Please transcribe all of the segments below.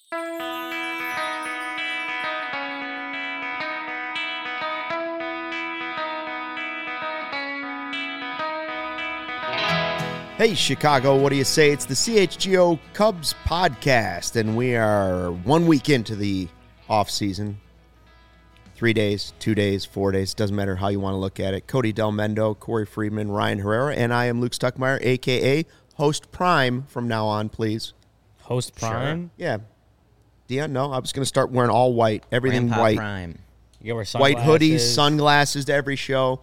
Hey, Chicago, what do you say? It's the CHGO Cubs podcast, and we are 1 week into the offseason. 3 days, 2 days, 4 days, doesn't matter how you want to look at it. Cody Del Mendo, Corey Friedman, Ryan Herrera, and I am Luke Stuckmeyer, a.k.a. Host Prime from now on, please. Host Prime? Sure. Yeah. Dion, no, I was going to start wearing all white, everything Grandpa white. Prime. You wear White sunglasses. hoodies, sunglasses to every show.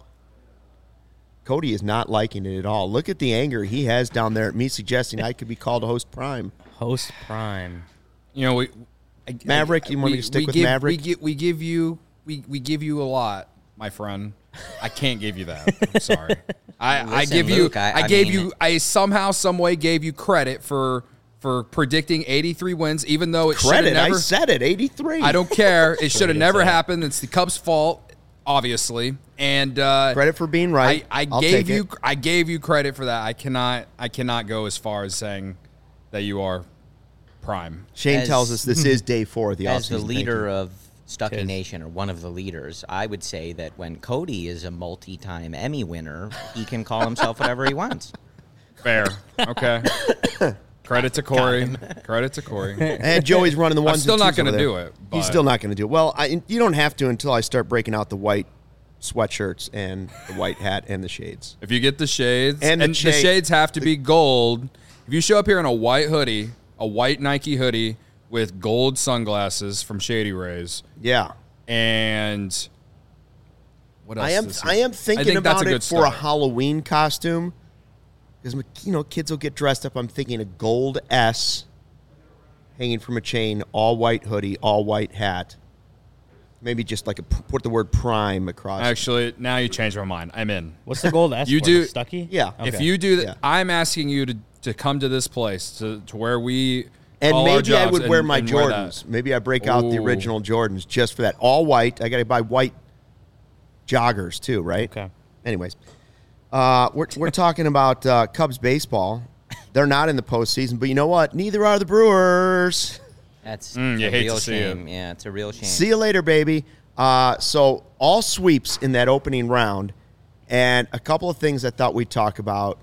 Cody is not liking it at all. Look at the anger he has down there at me suggesting I could be called Host Prime. Host Prime. You know, Maverick, you want me to stick with Maverick? We give you a lot, my friend. I can't give you that. I'm sorry. I give you. Luke, I gave you. I somehow, some way gave you credit for predicting 83 wins, even though it should have Credit, never. I said it, 83. I don't care. It should have never happened. It's the Cubs' fault, obviously. And Credit for being right. I gave you. I gave you credit for that. I cannot go as far as saying that you are prime. Shane tells us this is day 4 of the offseason. As the leader Thank of Stucky Nation, or one of the leaders, I would say that when Cody is a multi-time Emmy winner, he can call himself whatever he wants. Fair. Okay. Credit to Corey. Credit to Corey. And Joey's running the ones. I'm still not going to do it. But He's still not going to do it. Well, you don't have to until I start breaking out the white sweatshirts and the white hat and the shades. If you get the shades, And and, the the shades have to be gold. If you show up here in a white hoodie, a white Nike hoodie with gold sunglasses from Shady Rays, Yeah. and what else? I am thinking think that's about a it good for a start. Halloween costume. Because, kids will get dressed up. I'm thinking a gold S hanging from a chain, all white hoodie, all white hat. Maybe just like put the word prime across. Actually, now you changed my mind. I'm in. What's the gold S You for? do- Stucky? Yeah. If Okay. you do that, Yeah. I'm asking you to come to this place to where we And call our maybe I jobs would wear and- my and wear that. Jordans. Maybe I break out the Ooh. original Jordans just for that. All white. I got to buy white joggers too, right? Okay. Anyways, we're talking about Cubs baseball. They're not in the postseason, but you know what? Neither are the Brewers. That's you a hate real to see shame. it. Yeah, it's a real shame. See you later, baby. So all sweeps in that opening round, and a couple of things I thought we'd talk about.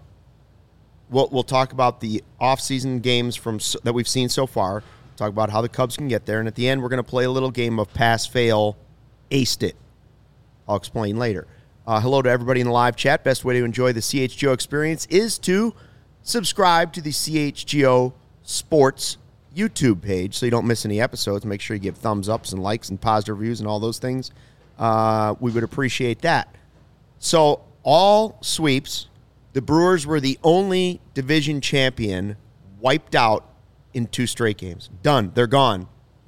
We'll talk about the offseason games that we've seen so far. Talk about how the Cubs can get there, and at the end, we're going to play a little game of pass, fail, aced it. I'll explain later. Hello to everybody in the live chat. Best way to enjoy the CHGO experience is to subscribe to the CHGO Sports YouTube page so you don't miss any episodes. Make sure you give thumbs ups and likes and positive reviews and all those things. We would appreciate that. So all sweeps, the Brewers were the only division champion wiped out in 2 straight games. Done. They're gone.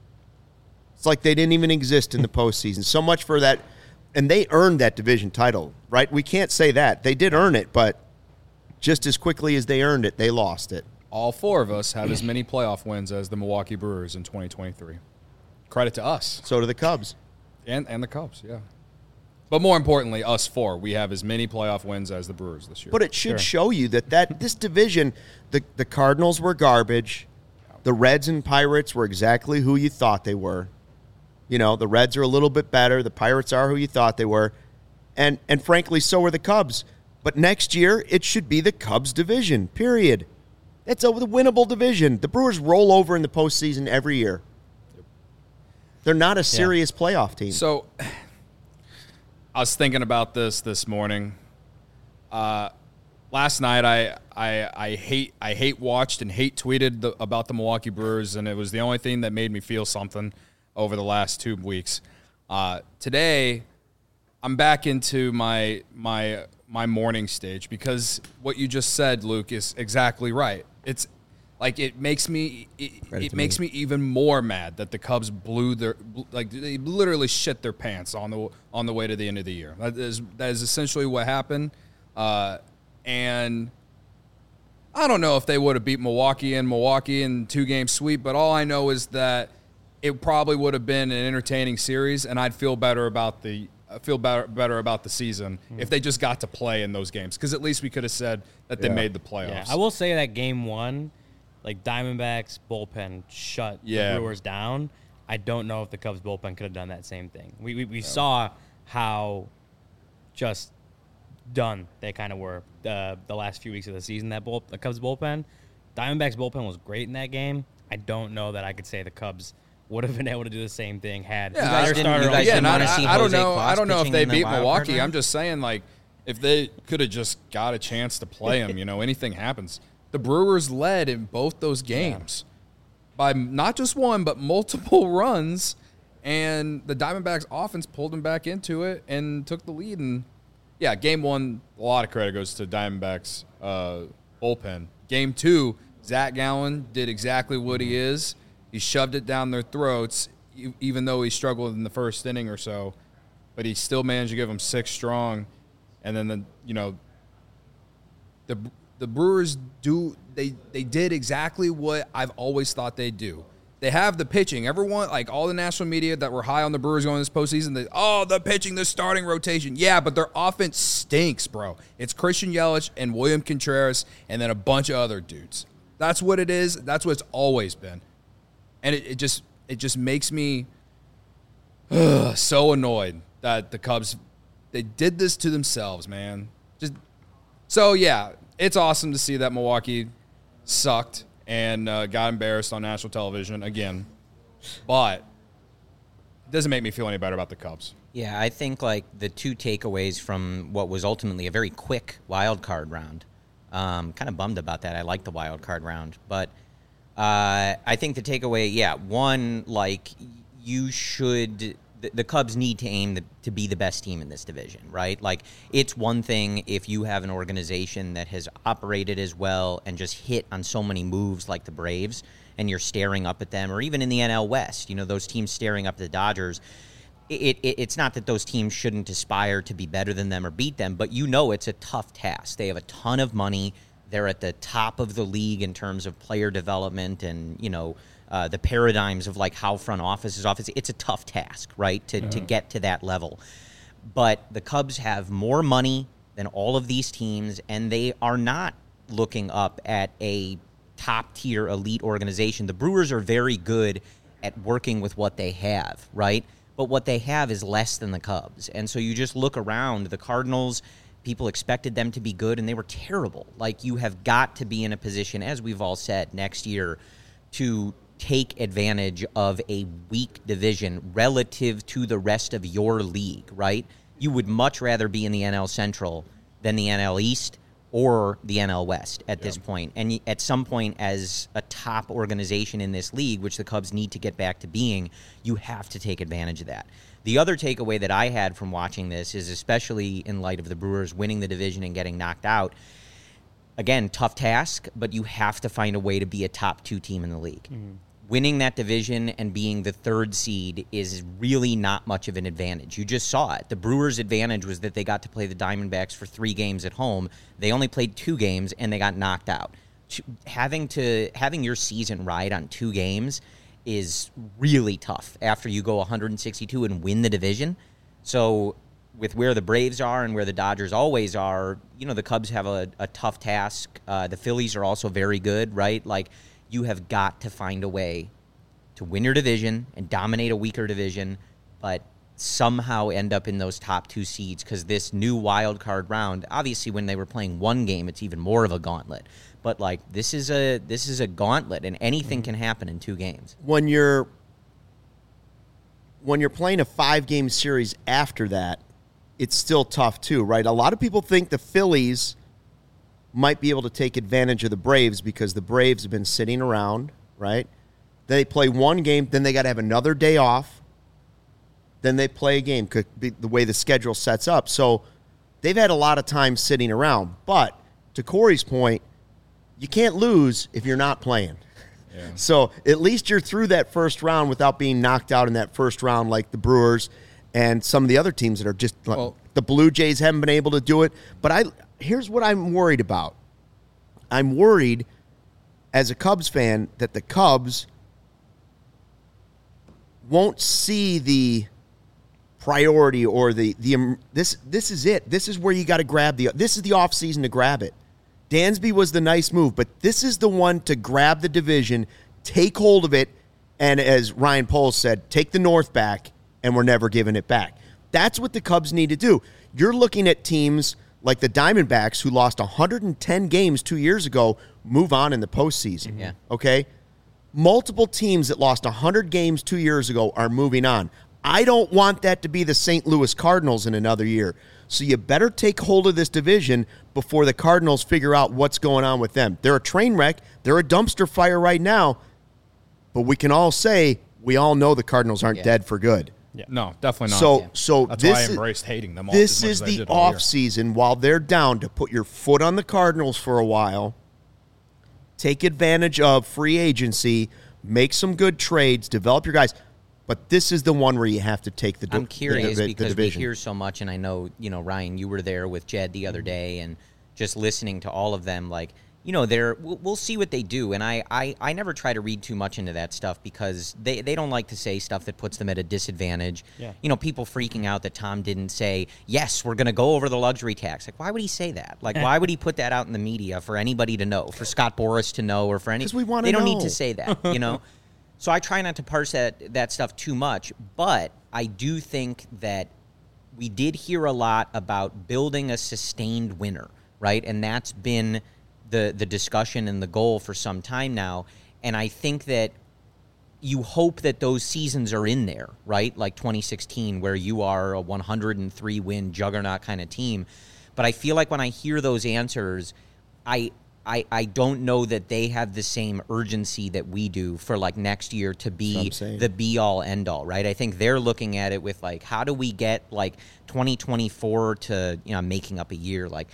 It's like they didn't even exist in the postseason. So much for that. And they earned that division title, right? We can't say that. They did earn it, but just as quickly as they earned it, they lost it. All 4 of us have as many playoff wins as the Milwaukee Brewers in 2023. Credit to us So do the Cubs. and the Cubs, yeah. But more importantly, us 4, we have as many playoff wins as the Brewers this year. But it should show you that this division, the Cardinals were garbage. The Reds and Pirates were exactly who you thought they were. The Reds are a little bit better. The Pirates are who you thought they were. And frankly, so are the Cubs. But next year, it should be the Cubs division, period. It's a winnable division. The Brewers roll over in the postseason every year. They're not a serious playoff team. So I was thinking about this morning. Last night I hate watched and hate tweeted about the Milwaukee Brewers, and it was the only thing that made me feel something over the last 2 weeks. Today I'm back into my morning stage because what you just said, Luke, is exactly right. It's like it makes me makes me even more mad that the Cubs they literally shit their pants on the way to the end of the year. That is essentially what happened. And I don't know if they would have beat Milwaukee in 2-game sweep, but all I know is that it probably would have been an entertaining series, and I'd feel better about the season if they just got to play in those games, because at least we could have said that they made the playoffs. Yeah, I will say that game 1, like Diamondbacks bullpen shut Yeah. the Brewers down. I don't know if the Cubs bullpen could have done that same thing. We saw how just done they kind of were the last few weeks of the season. The Cubs bullpen, Diamondbacks bullpen was great in that game. I don't know that I could say the Cubs would have been able to do the same thing had Yeah, their starter. didn't wanna see I don't Jose know. Quaz I don't know if pitching they in the beat wild card Milwaukee. round? I'm just saying, like, if they could have just got a chance to play him, anything happens. The Brewers led in both those games by not just one but multiple runs, and the Diamondbacks offense pulled them back into it and took the lead. And yeah, game one, a lot of credit goes to Diamondbacks bullpen. Game two, Zach Gallen did exactly what he is. He shoved it down their throats, even though he struggled in the first inning or so. But he still managed to give them 6 strong. And then, the Brewers they did exactly what I've always thought they'd do. They have the pitching. Everyone, like all the national media that were high on the Brewers going this postseason, the pitching, the starting rotation. Yeah, but their offense stinks, bro. It's Christian Yelich and William Contreras and then a bunch of other dudes. That's what it is. That's what it's always been. And it just makes me so annoyed that the Cubs, they did this to themselves, man. So, yeah, it's awesome to see that Milwaukee sucked and got embarrassed on national television again. But it doesn't make me feel any better about the Cubs. Yeah, I think like the two takeaways from what was ultimately a very quick wild card round. Kind of bummed about that. I like the wild card round, but I think the takeaway, one, like you should. The Cubs need to aim to be the best team in this division, right? Like, it's one thing if you have an organization that has operated as well and just hit on so many moves like the Braves, and you're staring up at them, or even in the NL West, those teams staring up at the Dodgers. It's not that those teams shouldn't aspire to be better than them or beat them, but it's a tough task. They have a ton of money. They're at the top of the league in terms of player development and, the paradigms of like how front office is office. It's a tough task, right, to get to that level. But the Cubs have more money than all of these teams, and they are not looking up at a top-tier elite organization. The Brewers are very good at working with what they have, right? But what they have is less than the Cubs. And so you just look around, the Cardinals, people expected them to be good, and they were terrible. Like, you have got to be in a position, as we've all said, next year to take advantage of a weak division relative to the rest of your league, right? You would much rather be in the NL Central than the NL East or the NL West at this point. And at some point, as a top organization in this league, which the Cubs need to get back to being, you have to take advantage of that. The other takeaway that I had from watching this is, especially in light of the Brewers winning the division and getting knocked out, again, tough task, but you have to find a way to be a top 2 team in the league. Mm-hmm. Winning that division and being the 3rd seed is really not much of an advantage. You just saw it. The Brewers' advantage was that they got to play the Diamondbacks for 3 games at home. They only played 2 games, and they got knocked out. Having your season ride on 2 games is really tough after you go 162 and win the division. So with where the Braves are and where the Dodgers always are, the Cubs have a tough task. The Phillies are also very good, right? Like, you have got to find a way to win your division and dominate a weaker division, but somehow end up in those top 2 seeds, because this new wild card round, obviously when they were playing 1 game, it's even more of a gauntlet. But like, this is a gauntlet, and anything can happen in 2 games. When you're playing a 5-game series after that, it's still tough too, right? A lot of people think the Phillies might be able to take advantage of the Braves because the Braves have been sitting around, right? They play 1 game, then they got to have another day off. Then they play a game, could be the way the schedule sets up. So they've had a lot of time sitting around. But to Corey's point, you can't lose if you're not playing. Yeah. So at least you're through that first round without being knocked out in that first round like the Brewers and some of the other teams that are just the Blue Jays haven't been able to do it. But here's what I'm worried about. I'm worried as a Cubs fan that the Cubs won't see the priority or this is it. This is where you got to grab this is the offseason to grab it. Dansby was the nice move, but this is the one to grab the division, take hold of it, and as Ryan Poles said, take the North back, and we're never giving it back. That's what the Cubs need to do. You're looking at teams like the Diamondbacks, who lost 110 games 2 years ago, move on in the postseason. Yeah. Okay? Multiple teams that lost 100 games 2 years ago are moving on. I don't want that to be the St. Louis Cardinals in another year. So you better take hold of this division before the Cardinals figure out what's going on with them. They're a train wreck. They're a dumpster fire right now. But we can all say we all know the Cardinals aren't dead for good. Yeah. No, definitely not. So That's this why I is, embraced hating them all. this as much is as I the did all year. off season while they're down to put your foot on the Cardinals for a while. Take advantage of free agency, make some good trades, develop your guys. But this is the one where you have to take the I'm curious the because we division. hear so much, and I know, Ryan, you were there with Jed the other day, and just listening to all of them, like, we'll see what they do. And I never try to read too much into that stuff because they don't like to say stuff that puts them at a disadvantage. Yeah. People freaking out that Tom didn't say, yes, we're going to go over the luxury tax. Like, why would he say that? Like, why would he put that out in the media for anybody to know, for Scott Boras to know, or for any? 'Cause we wanna They don't know. need to say that, So I try not to parse that stuff too much, but I do think that we did hear a lot about building a sustained winner, right? And that's been the discussion and the goal for some time now. And I think that you hope that those seasons are in there, right? Like 2016, where you are a 103-win juggernaut kind of team. But I feel like when I hear those answers, I don't know that they have the same urgency that we do for like next year to be the be-all, end-all, right? I think they're looking at it with like, how do we get like 2024 to, I'm making up a year, like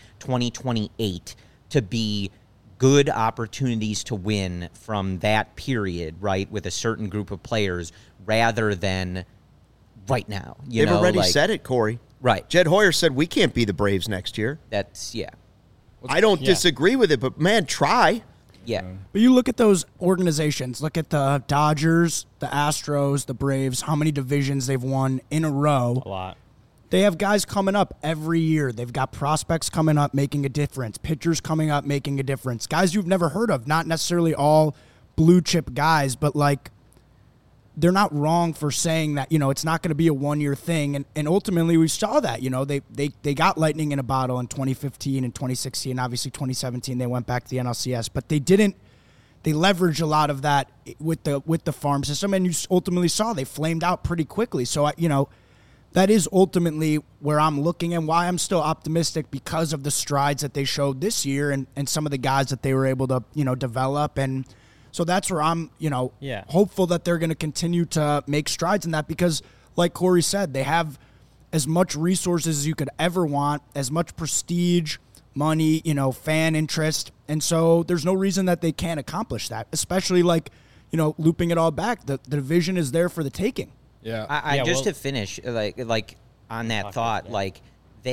2028 to be good opportunities to win from that period, right, with a certain group of players rather than right now. They've already said it, Corey. Right. Jed Hoyer said we can't be the Braves next year. That's, yeah. I don't disagree with it, but, man, try. Yeah. But you look at those organizations, look at the Dodgers, the Astros, the Braves, how many divisions they've won in a row. A lot. They have guys coming up every year. They've got prospects coming up making a difference, pitchers coming up making a difference, guys you've never heard of, not necessarily all blue chip guys, but like they're not wrong for saying that, it's not going to be a one-year thing. And ultimately we saw that, they got lightning in a bottle in 2015 and 2016. Obviously 2017 they went back to the NLCS, but they leveraged a lot of that with the farm system, and you ultimately saw they flamed out pretty quickly. So, that is ultimately where I'm looking and why I'm still optimistic because of the strides that they showed this year and some of the guys that they were able to, develop. And so that's where I'm, hopeful that they're going to continue to make strides in that because, like Corey said, they have as much resources as you could ever want, as much prestige, money, fan interest. And so there's no reason that they can't accomplish that, especially like, looping it all back. The division is there for the taking. Yeah. To finish, like on that thought, like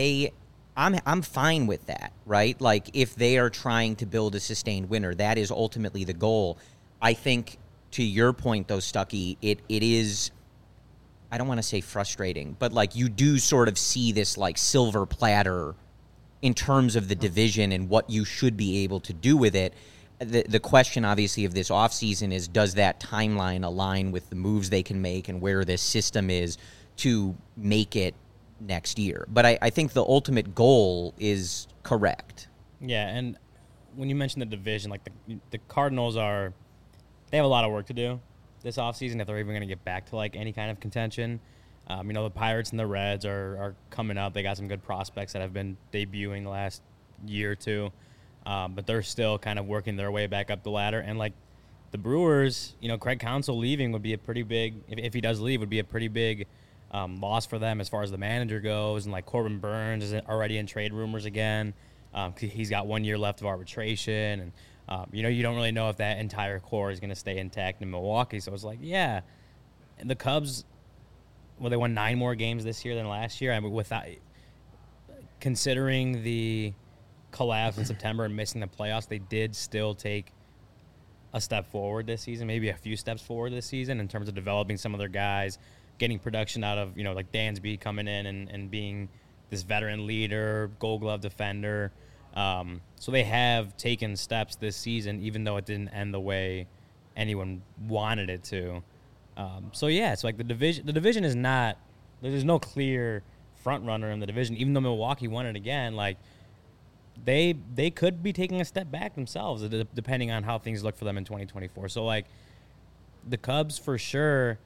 I'm fine with that, right? Like if they are trying to build a sustained winner, that is ultimately the goal. I think to your point though, Stuckey, it is, I don't want to say frustrating, but like you do sort of see this like silver platter in terms of the division and what you should be able to do with it. The question, obviously, of this offseason is, does that timeline align with the moves they can make and where this system is to make it next year? But I think the ultimate goal is correct. Yeah, and when you mention the division, like the Cardinals they have a lot of work to do this offseason if they're even going to get back to like any kind of contention. The Pirates and the Reds are coming up. They got some good prospects that have been debuting the last year or two. But they're still kind of working their way back up the ladder. And, like, the Brewers, Craig Counsell leaving would be a pretty big – if he does leave, would be a pretty big loss for them as far as the manager goes. And, like, Corbin Burns is already in trade rumors again. He's got 1 year left of arbitration. And, you don't really know if that entire core is going to stay intact in Milwaukee. So it's like, yeah. And the Cubs, they won 9 more games this year than last year. I mean, without – considering the – collapse in September and missing the playoffs, they did still take a step forward this season, maybe a few steps forward this season in terms of developing some of their guys, getting production out of, like Dansby coming in and being this veteran leader, Gold Glove defender. So they have taken steps this season, even though it didn't end the way anyone wanted it to. So yeah, it's like the division is not, there's no clear front runner in the division, even though Milwaukee won it again. Like they could be taking a step back themselves, depending on how things look for them in 2024. So like the Cubs for sure,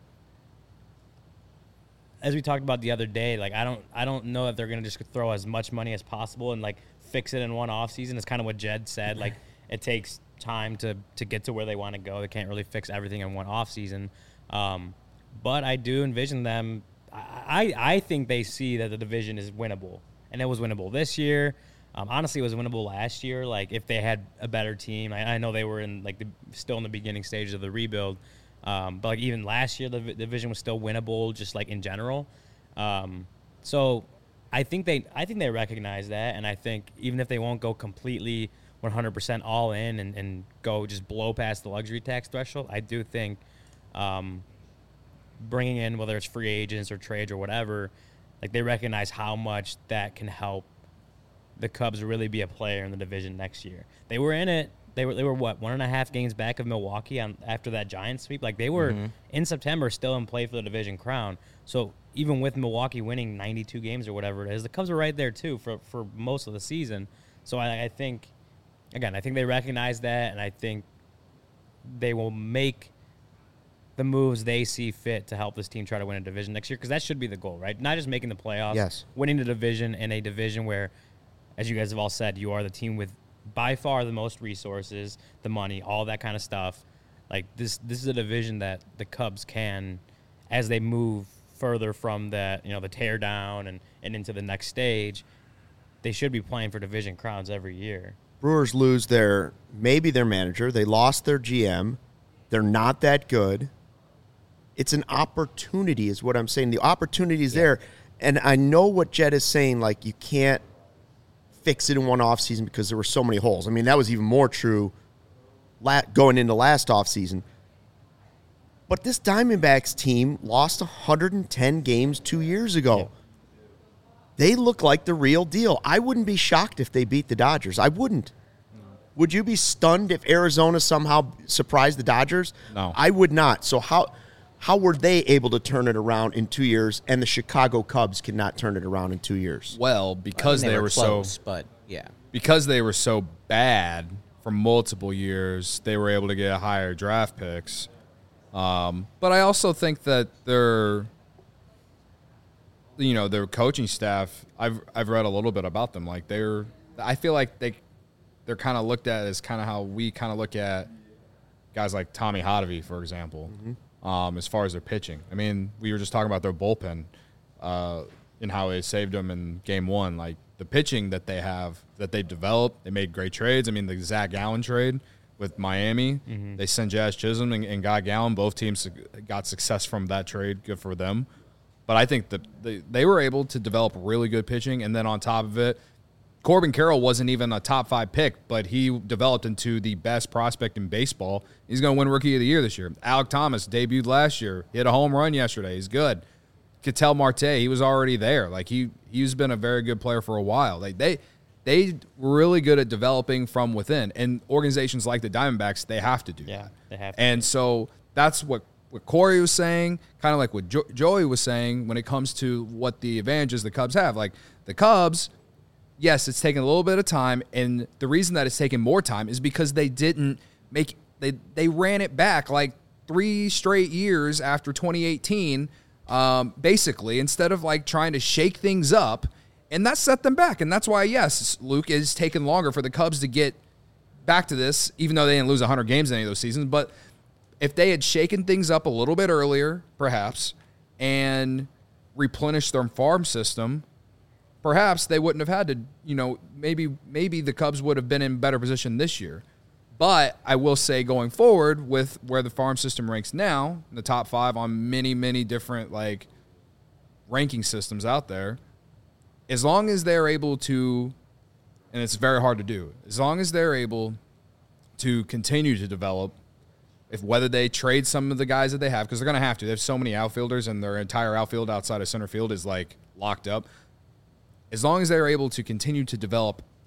as we talked about the other day, like I don't know if they're gonna just throw as much money as possible and like fix it in one offseason. It's kind of what Jed said. Like it takes time to get to where they want to go. They can't really fix everything in one offseason. But I do envision them. I think they see that the division is winnable, and it was winnable this year. Honestly, it was winnable last year. Like if they had a better team, I know they were in like still in the beginning stages of the rebuild. But like even last year, the division was still winnable, just like in general. So I think they recognize that, and I think even if they won't go completely 100% all in and go just blow past the luxury tax threshold, I do think bringing in, whether it's free agents or trades or whatever, like they recognize how much that can help the Cubs really be a player in the division next year. They were in it. They were what, 1.5 games back of Milwaukee after that Giants sweep. Like they were in September still in play for the division crown. So even with Milwaukee winning 92 games or whatever it is, the Cubs were right there too for most of the season. So I think, again, I think they recognize that, and I think they will make the moves they see fit to help this team try to win a division next year, because that should be the goal, right? Not just making the playoffs, Yes. winning the division in a division where, as you guys have all said, you are the team with by far the most resources, the money, all that kind of stuff. Like this is a division that the Cubs can, as they move further from that, the tear down and into the next stage, they should be playing for division crowns every year. Brewers lose their manager. They lost their GM. They're not that good. It's an opportunity is what I'm saying. The opportunity is there. And I know what Jed is saying, like you can't fix it in one offseason because there were so many holes. I mean, that was even more true going into last offseason. But this Diamondbacks team lost 110 games 2 years ago. Yeah. They look like the real deal. I wouldn't be shocked if they beat the Dodgers. I wouldn't. Would you be stunned if Arizona somehow surprised the Dodgers? No. I would not. So how were they able to turn it around in 2 years, and the Chicago Cubs cannot turn it around in 2 years? Well, because they were close, so, but yeah, because they were so bad for multiple years, they were able to get higher draft picks. But I also think that their coaching staff, I've read a little bit about them. Like I feel like they're kind of looked at as kind of how we kind of look at guys like Tommy Hotovy, for example. As far as their pitching. I mean, we were just talking about their bullpen and how it saved them in game one. Like the pitching that they have, that they've developed, they made great trades. I mean, the Zach Gallen trade with Miami, they sent Jazz Chisholm and got Gallen. Both teams got success from that trade. Good for them. But I think that they were able to develop really good pitching, and then on top of it, Corbin Carroll wasn't even a top 5 pick, but he developed into the best prospect in baseball. He's going to win Rookie of the Year this year. Alek Thomas debuted last year. He hit a home run yesterday. He's good. Ketel Marte, he was already there. Like he's been a very good player for a while. Like they were really good at developing from within. And organizations like the Diamondbacks, they have to do that. They have to. And so that's what Corey was saying, kind of like what Joey was saying when it comes to what the advantages the Cubs have. Like the Cubs, yes, it's taken a little bit of time, and the reason that it's taken more time is because they didn't make they ran it back like 3 straight years after 2018, basically, instead of like trying to shake things up, and that set them back. And that's why, yes, Luke, it's taken longer for the Cubs to get back to this, even though they didn't lose 100 games in any of those seasons. But if they had shaken things up a little bit earlier, perhaps, and replenished their farm system, perhaps they wouldn't have had to, maybe the Cubs would have been in better position this year. But I will say going forward with where the farm system ranks now, in the top 5 on many, many different like ranking systems out there, as long as they're able to, and it's very hard to do, as long as they're able to continue to develop, whether they trade some of the guys that they have, because they're going to have to. They have so many outfielders, and their entire outfield outside of center field is like locked up. As long as they're able to continue to develop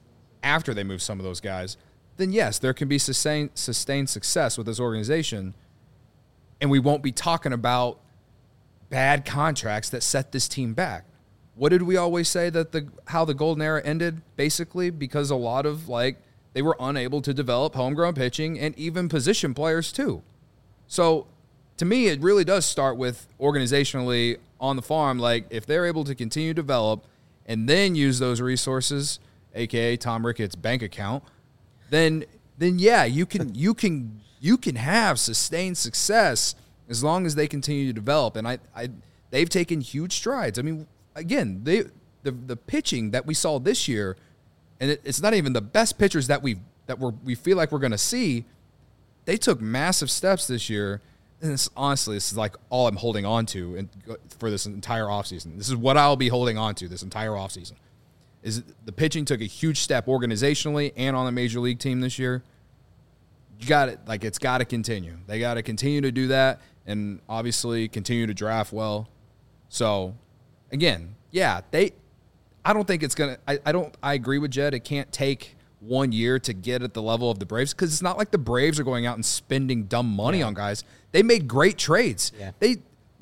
after they move some of those guys, then yes, there can be sustained success with this organization, and we won't be talking about bad contracts that set this team back. What did we always say that how the golden era ended? Basically, because a lot of they were unable to develop homegrown pitching and even position players too. So to me, it really does start with organizationally on the farm. Like, if they're able to continue to develop and then use those resources, aka Tom Ricketts' bank account, then yeah, you can have sustained success as long as they continue to develop. And they've taken huge strides. I mean, again, the pitching that we saw this year, and it's not even the best pitchers that we feel like we're going to see. They took massive steps this year. And this is like all I'm holding on to for this entire offseason. This is what I'll be holding on to this entire offseason. Is the pitching took a huge step organizationally and on the major league team this year. You got it. Like, it's got to continue. They got to continue to do that and obviously continue to draft well. So, again, yeah, I don't think it's going to – I agree with Jed. It can't take 1 year to get at the level of the Braves because it's not like the Braves are going out and spending dumb money on guys. They made great trades. Yeah.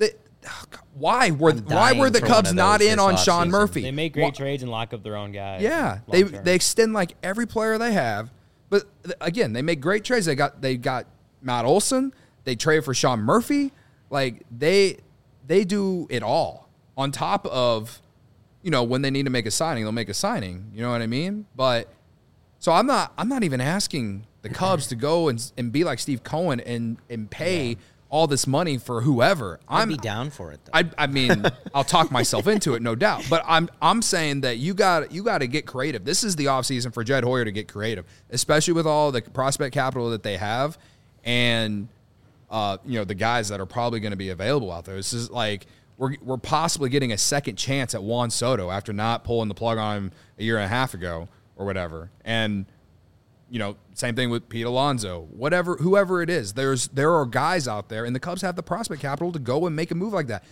Why were the Cubs not in on Sean Murphy? They make great trades and lock up their own guys. Yeah, they extend like every player they have. But again, they make great trades. They got Matt Olson. They traded for Sean Murphy. Like, they do it all. On top of, when they need to make a signing, they'll make a signing. You know what I mean? But so I'm not even asking the Cubs to go and be like Steve Cohen and pay all this money for whoever. I'd be down for it, though. I mean, I'll talk myself into it, no doubt. But I'm saying that you got to get creative. This is the offseason for Jed Hoyer to get creative, especially with all the prospect capital that they have and the guys that are probably going to be available out there. This is like we're possibly getting a second chance at Juan Soto after not pulling the plug on him a year and a half ago or whatever. And same thing with Pete Alonso, whoever it is. There are guys out there, and the Cubs have the prospect capital to go and make a move like that.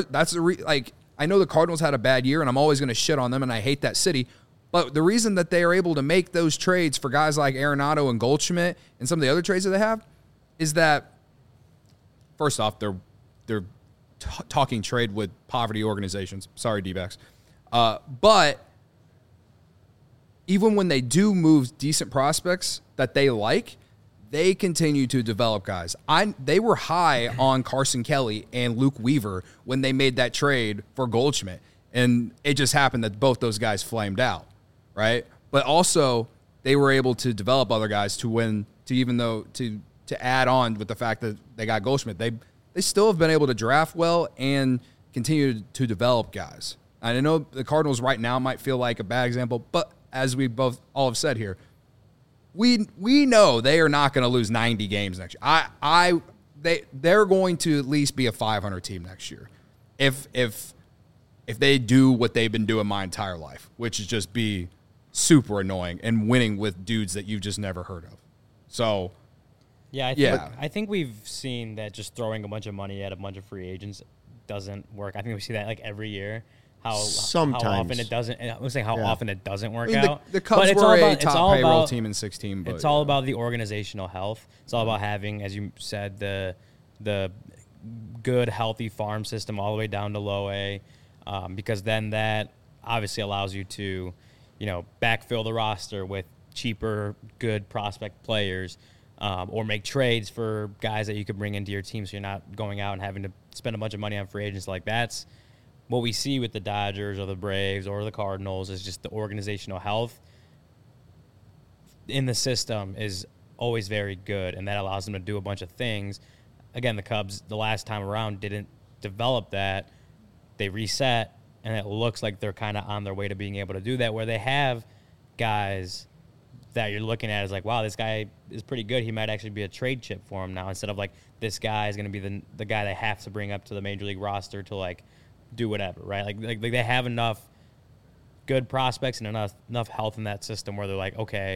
I know the Cardinals had a bad year, and I'm always going to shit on them, and I hate that city. But the reason that they are able to make those trades for guys like Arenado and Goldschmidt and some of the other trades that they have is that, first off, they're talking trade with poverty organizations. Sorry, D-backs. But even when they do move decent prospects that they like, they continue to develop guys. They were high on Carson Kelly and Luke Weaver when they made that trade for Goldschmidt, and it just happened that both those guys flamed out, right? But also, they were able to develop other guys to add on with the fact that they got Goldschmidt. They still have been able to draft well and continue to develop guys. And I know the Cardinals right now might feel like a bad example, but as we all have said here, we know they are not going to lose 90 games next year. They're going to at least be a 500 team next year, if they do what they've been doing my entire life, which is just be super annoying and winning with dudes that you've just never heard of. So, I think we've seen that just throwing a bunch of money at a bunch of free agents doesn't work. I think we see that like every year. Sometimes. How often it doesn't. I was saying how often it doesn't work I mean, out. The Cubs were a top payroll team in 2016. It's all about the organizational health. It's all about having, as you said, the good, healthy farm system all the way down to low A, because then that obviously allows you to, backfill the roster with cheaper, good prospect players, or make trades for guys that you could bring into your team, so you're not going out and having to spend a bunch of money on free agents. Like, that's what we see with the Dodgers or the Braves or the Cardinals is just the organizational health in the system is always very good, and that allows them to do a bunch of things. Again, the Cubs, the last time around, didn't develop that. They reset, and it looks like they're kind of on their way to being able to do that, where they have guys that you're looking at as like, wow, this guy is pretty good. He might actually be a trade chip for him now, instead of like this guy is going to be the guy they have to bring up to the major league roster to like do whatever, right? Like they have enough good prospects and enough health in that system where they're like, okay,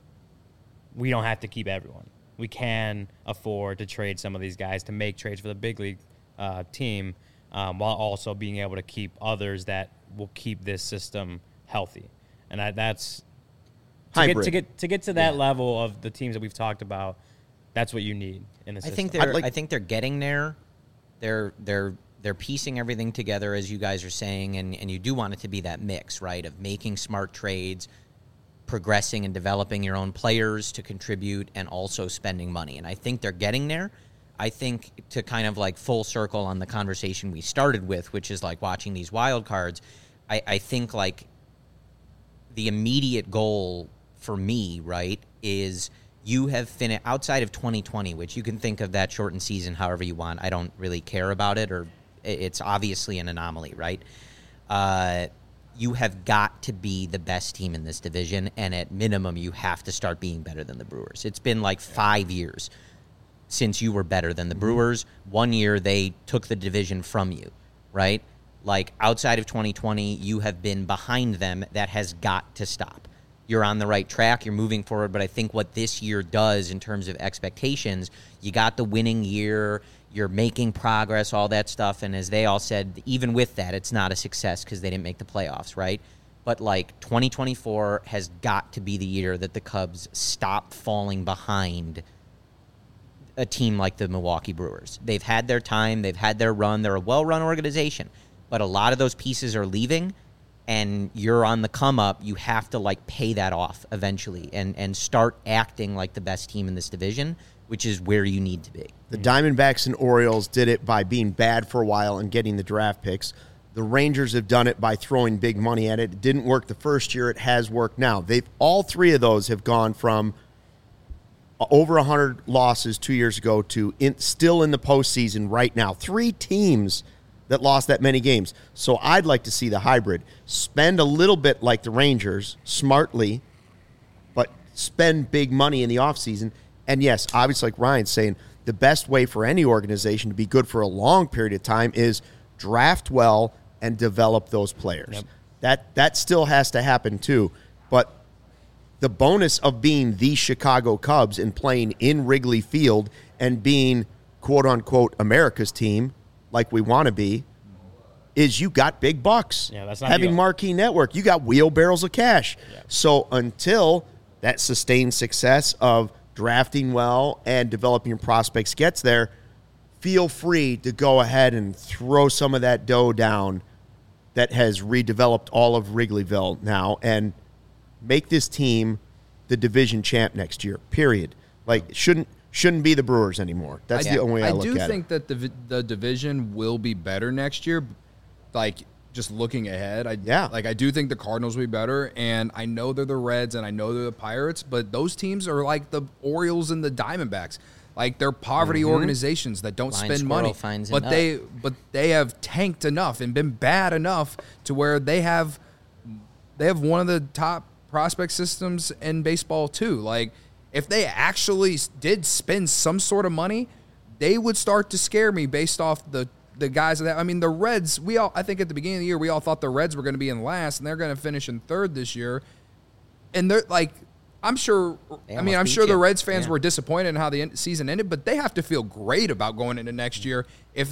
we don't have to keep everyone. We can afford to trade some of these guys to make trades for the big league team, while also being able to keep others that will keep this system healthy. And that's hybrid. To get to that level of the teams that we've talked about, that's what you need in the system. I think they're getting there. They're piecing everything together, as you guys are saying, and you do want it to be that mix, right, of making smart trades, progressing and developing your own players to contribute, and also spending money. And I think they're getting there. I think to kind of like full circle on the conversation we started with, which is like watching these wild cards, I think like the immediate goal for me, right, is you have finished outside of 2020, which you can think of that shortened season however you want. I don't really care about it, or it's obviously an anomaly, right? You have got to be the best team in this division, and at minimum, you have to start being better than the Brewers. It's been like 5 years since you were better than the Brewers. 1 year, they took the division from you, right? Like, outside of 2020, you have been behind them. That has got to stop. You're on the right track. You're moving forward. But I think what this year does in terms of expectations, you got the winning year. You're making progress, all that stuff. And as they all said, even with that, it's not a success because they didn't make the playoffs, right? But, like, 2024 has got to be the year that the Cubs stop falling behind a team like the Milwaukee Brewers. They've had their time. They've had their run. They're a well-run organization. But a lot of those pieces are leaving, and you're on the come up. You have to, like, pay that off eventually and start acting like the best team in this division, which is where you need to be. The Diamondbacks and Orioles did it by being bad for a while and getting the draft picks. The Rangers have done it by throwing big money at it. It didn't work the first year. It has worked now. All three of those have gone from over 100 losses 2 years ago to still in the postseason right now. 3 teams that lost that many games. So I'd like to see the hybrid. Spend a little bit like the Rangers, smartly, but spend big money in the offseason. And yes, obviously, like Ryan's saying, the best way for any organization to be good for a long period of time is draft well and develop those players. Yep. That still has to happen too. But the bonus of being the Chicago Cubs and playing in Wrigley Field and being, quote-unquote, America's team, like we want to be, is you got big bucks. Yeah, that's not having marquee network. You got wheelbarrows of cash. Yeah. So until that sustained success of drafting well and developing prospects gets there, feel free to go ahead and throw some of that dough down that has redeveloped all of Wrigleyville now and make this team the division champ next year, period. Like, shouldn't be the Brewers anymore. That's the only way I look at it. I do think that the division will be better next year. Like, just looking ahead, I do think the Cardinals will be better, and I know they're the Reds and I know they're the Pirates, but those teams are like the Orioles and the Diamondbacks. Like, they're poverty organizations that don't spend money, but they have tanked enough and been bad enough to where they have one of the top prospect systems in baseball too. Like, if they actually did spend some sort of money, they would start to scare me based off the guys that. I mean, the Reds. I think at the beginning of the year, we all thought the Reds were going to be in last, and they're going to finish in third this year. And they're like, I'm sure. I'm sure the Reds fans were disappointed in how the season ended, but they have to feel great about going into next year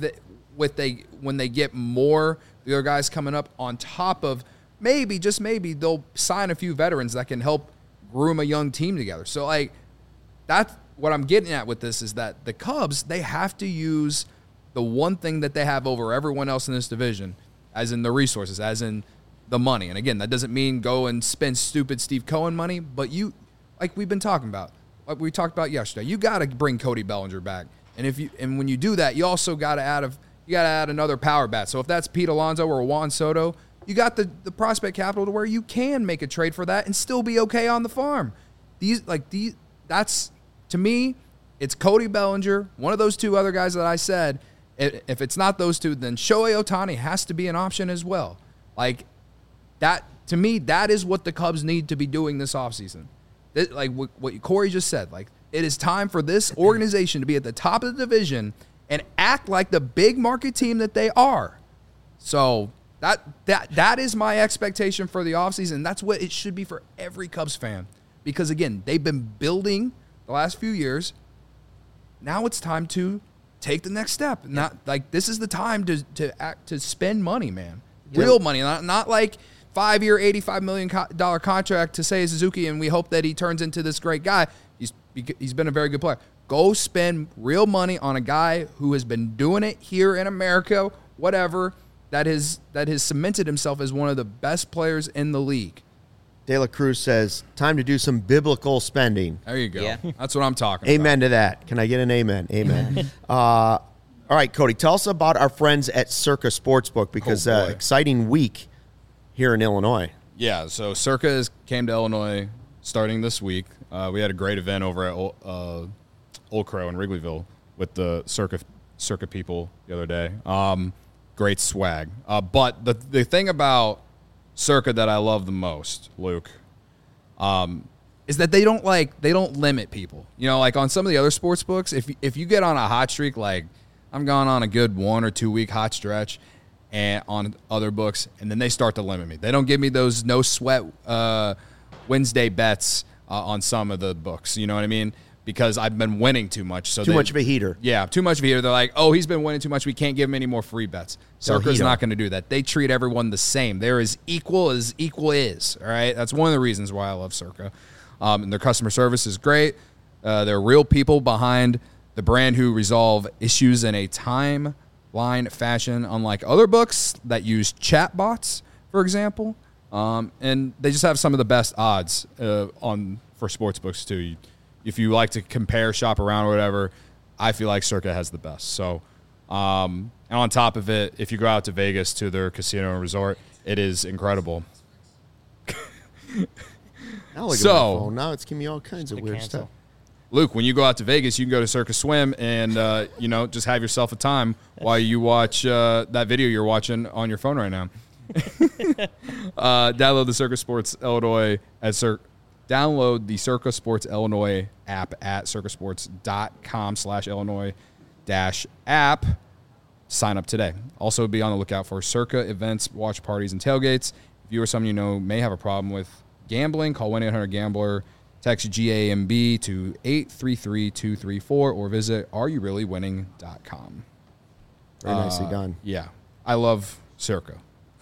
when they get more the other guys coming up on top of maybe, just maybe, they'll sign a few veterans that can help groom a young team together. So, like, that's what I'm getting at with this is that the Cubs, they have to use the one thing that they have over everyone else in this division, as in the resources, as in the money. And again, that doesn't mean go and spend stupid Steve Cohen money, but you, like we've been talking about, like we talked about yesterday, you got to bring Cody Bellinger back. And when you do that, you also got to add another power bat. So if that's Pete Alonso or Juan Soto, you got the prospect capital to where you can make a trade for that and still be okay on the farm. That's, to me, it's Cody Bellinger, one of those two other guys that I said. If it's not those two, then Shohei Ohtani has to be an option as well. Like, that, to me, that is what the Cubs need to be doing this offseason. Like what Corey just said, like, it is time for this organization to be at the top of the division and act like the big market team that they are. So that is my expectation for the offseason. That's what it should be for every Cubs fan. Because, again, they've been building the last few years. Now it's time to take the next step. Not like this is the time to spend money, man. Real money, not like 5-year, $85 million contract to Seiya Suzuki, and we hope that he turns into this great guy. He's been a very good player. Go spend real money on a guy who has been doing it here in America, whatever, that has cemented himself as one of the best players in the league. De La Cruz says, time to do some biblical spending. There you go. Yeah. That's what I'm talking about. Amen to that. Can I get an amen? Amen. All right, Cody, tell us about our friends at Circa Sportsbook, because Oh, boy. exciting week here in Illinois. Yeah, so Circa came to Illinois starting this week. We had a great event over at Old Crow in Wrigleyville with the Circa people the other day. Great swag. But the thing about Circa that I love the most, Luke, is that they don't limit people. You know, like on some of the other sports books, if you get on a hot streak, like I'm gone on a good 1 or 2 week hot stretch, and on other books, and then they start to limit me. They don't give me those no sweat Wednesday bets on some of the books. You know what I mean? Because I've been winning too much. So Too much of a heater. Yeah, too much of a heater. They're like, oh, he's been winning too much. We can't give him any more free bets. Circa's heat not him. going to do that. They treat everyone the same. They're as equal is. All right, that's one of the reasons why I love Circa. And their customer service is great. They're real people behind the brand who resolve issues in a timeline fashion, unlike other books that use chat bots, for example. And they just have some of the best odds for sports books too. If you like to compare, shop around, or whatever, I feel like Circa has the best. So, and on top of it, if you go out to Vegas to their casino and resort, it is incredible. Now look at So- my phone. Now it's giving me all kinds of weird cancel. stuff. Luke, when you go out to Vegas, you can go to Circa Swim and just have yourself a time while you watch that video you're watching on your phone right now. Download the Circa Sports Illinois Download the Circa Sports Illinois app at circasports.com/Illinois-app. Sign up today. Also, be on the lookout for Circa events, watch parties, and tailgates. If you or someone you know may have a problem with gambling, call 1-800-GAMBLER, text GAMB to 833-234, or visit areyoureallywinning.com. Very nicely done. Yeah, I love Circa.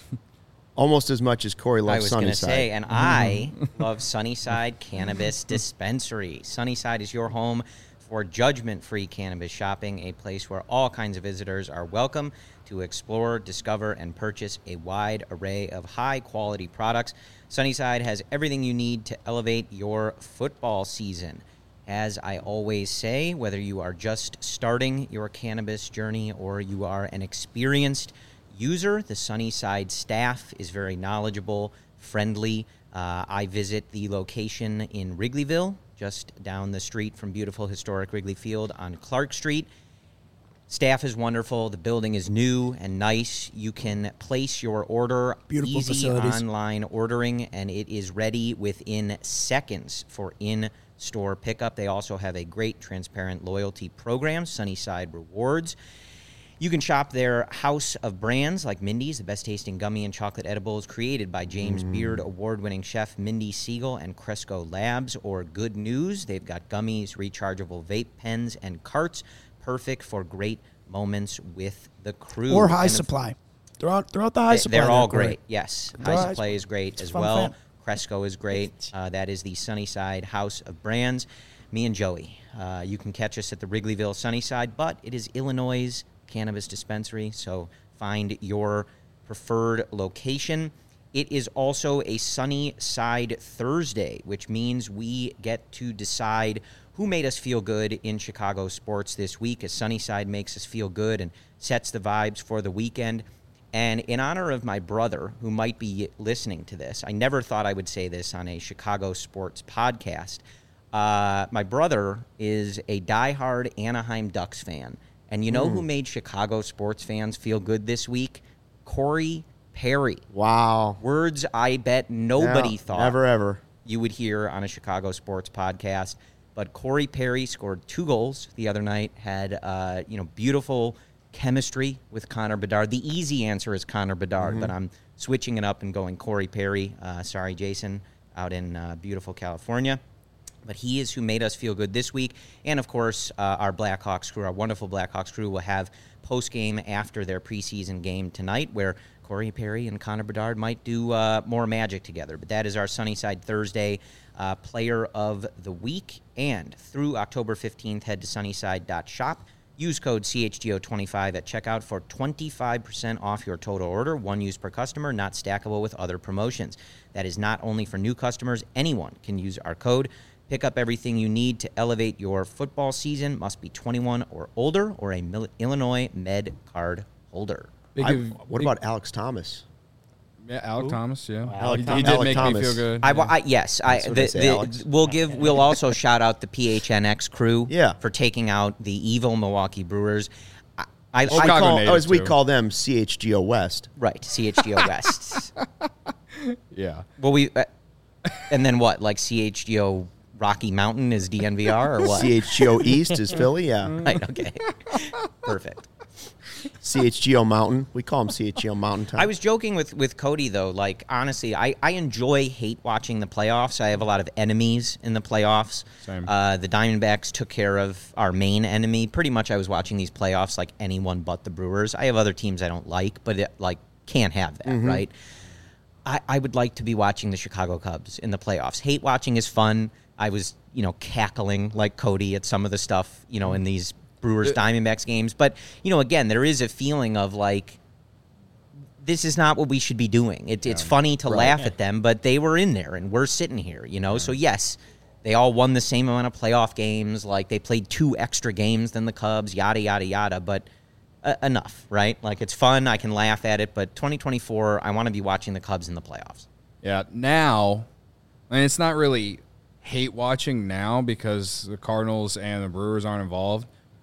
Almost as much as Corey I loves was going to Sunnyside. say, and I love Sunnyside Cannabis Dispensary. Sunnyside is your home for judgment-free cannabis shopping, a place where all kinds of visitors are welcome to explore, discover, and purchase a wide array of high-quality products. Sunnyside has everything you need to elevate your football season. As I always say, whether you are just starting your cannabis journey or you are an experienced user, the Sunnyside staff is very knowledgeable, friendly. I visit the location in Wrigleyville, just down the street from beautiful historic Wrigley Field on Clark Street. Staff is wonderful. The building is new and nice. You can place your order, Beautiful easy facilities. online ordering, and it is ready within seconds for in-store pickup. They also have a great transparent loyalty program, Sunnyside Rewards. You can shop their house of brands like Mindy's, the best-tasting gummy and chocolate edibles created by James Beard award-winning chef Mindy Siegel and Cresco Labs, or Good News. They've got gummies, rechargeable vape pens, and carts, perfect for great moments with the crew. Or High And Supply. Throw out the High Supply. They're all there, Corey. great, yes. Throw High High Supply is great It's as a fun well. fan. Cresco is great. That is the Sunnyside House of Brands. Me and Joey. You can catch us at the Wrigleyville Sunnyside, but it is Illinois' cannabis dispensary, so find your preferred location. It is also a Sunnyside Thursday, which means we get to decide who made us feel good in Chicago sports this week, as Sunnyside makes us feel good and sets the vibes for the weekend. And in honor of my brother, who might be listening to this, I never thought I would say this on a Chicago sports podcast. My brother is a diehard Anaheim Ducks fan. And you know who made Chicago sports fans feel good this week? Corey Perry. Wow. Words I bet nobody Yeah, thought Never ever. you would hear on a Chicago sports podcast. But Corey Perry scored 2 goals the other night, had beautiful chemistry with Connor Bedard. The easy answer is Connor Bedard, but I'm switching it up and going Corey Perry. Sorry, Jason, out in beautiful California. But he is who made us feel good this week. And, of course, our Blackhawks crew, our wonderful Blackhawks crew, will have post-game after their preseason game tonight where Corey Perry and Connor Bedard might do more magic together. But that is our Sunnyside Thursday Player of the Week. And through October 15th, head to sunnyside.shop. Use code CHGO25 at checkout for 25% off your total order. One use per customer, not stackable with other promotions. That is not only for new customers. Anyone can use our code. Pick up everything you need to elevate your football season. Must be 21 or older or a Illinois Med card holder. What about Alex Thomas? Yeah, Alec Thomas. Yeah, Alec he Thomas. did Alec make Thomas. me feel good. Yes, Alex. We'll also shout out the PHNX crew Yeah. for taking out the evil Milwaukee Brewers. Chicago native, as we too. call them, CHGO West. Right, CHGO West. Yeah. Well, and then what? Like CHGO Rocky Mountain is DNVR or what? CHGO East is Philly, yeah. Right, okay. Perfect. CHGO Mountain. We call them CHGO Mountain Time. I was joking with Cody, though. Like, honestly, I hate watching the playoffs. I have a lot of enemies in the playoffs. Same. The Diamondbacks took care of our main enemy. Pretty much I was watching these playoffs like anyone but the Brewers. I have other teams I don't like, but can't have that, right? I would like to be watching the Chicago Cubs in the playoffs. Hate watching is fun. I was, cackling like Cody at some of the stuff, in these Brewers Diamondbacks games. But, again, there is a feeling of like, this is not what we should be doing. It's funny to laugh at them, but they were in there and we're sitting here, So, yes, they all won the same amount of playoff games. Like, they played 2 extra games than the Cubs, yada, yada, yada. But enough, right? Like, it's fun. I can laugh at it. But 2024, I want to be watching the Cubs in the playoffs. Yeah. Now, it's not really hate watching now because the Cardinals and the Brewers aren't involved.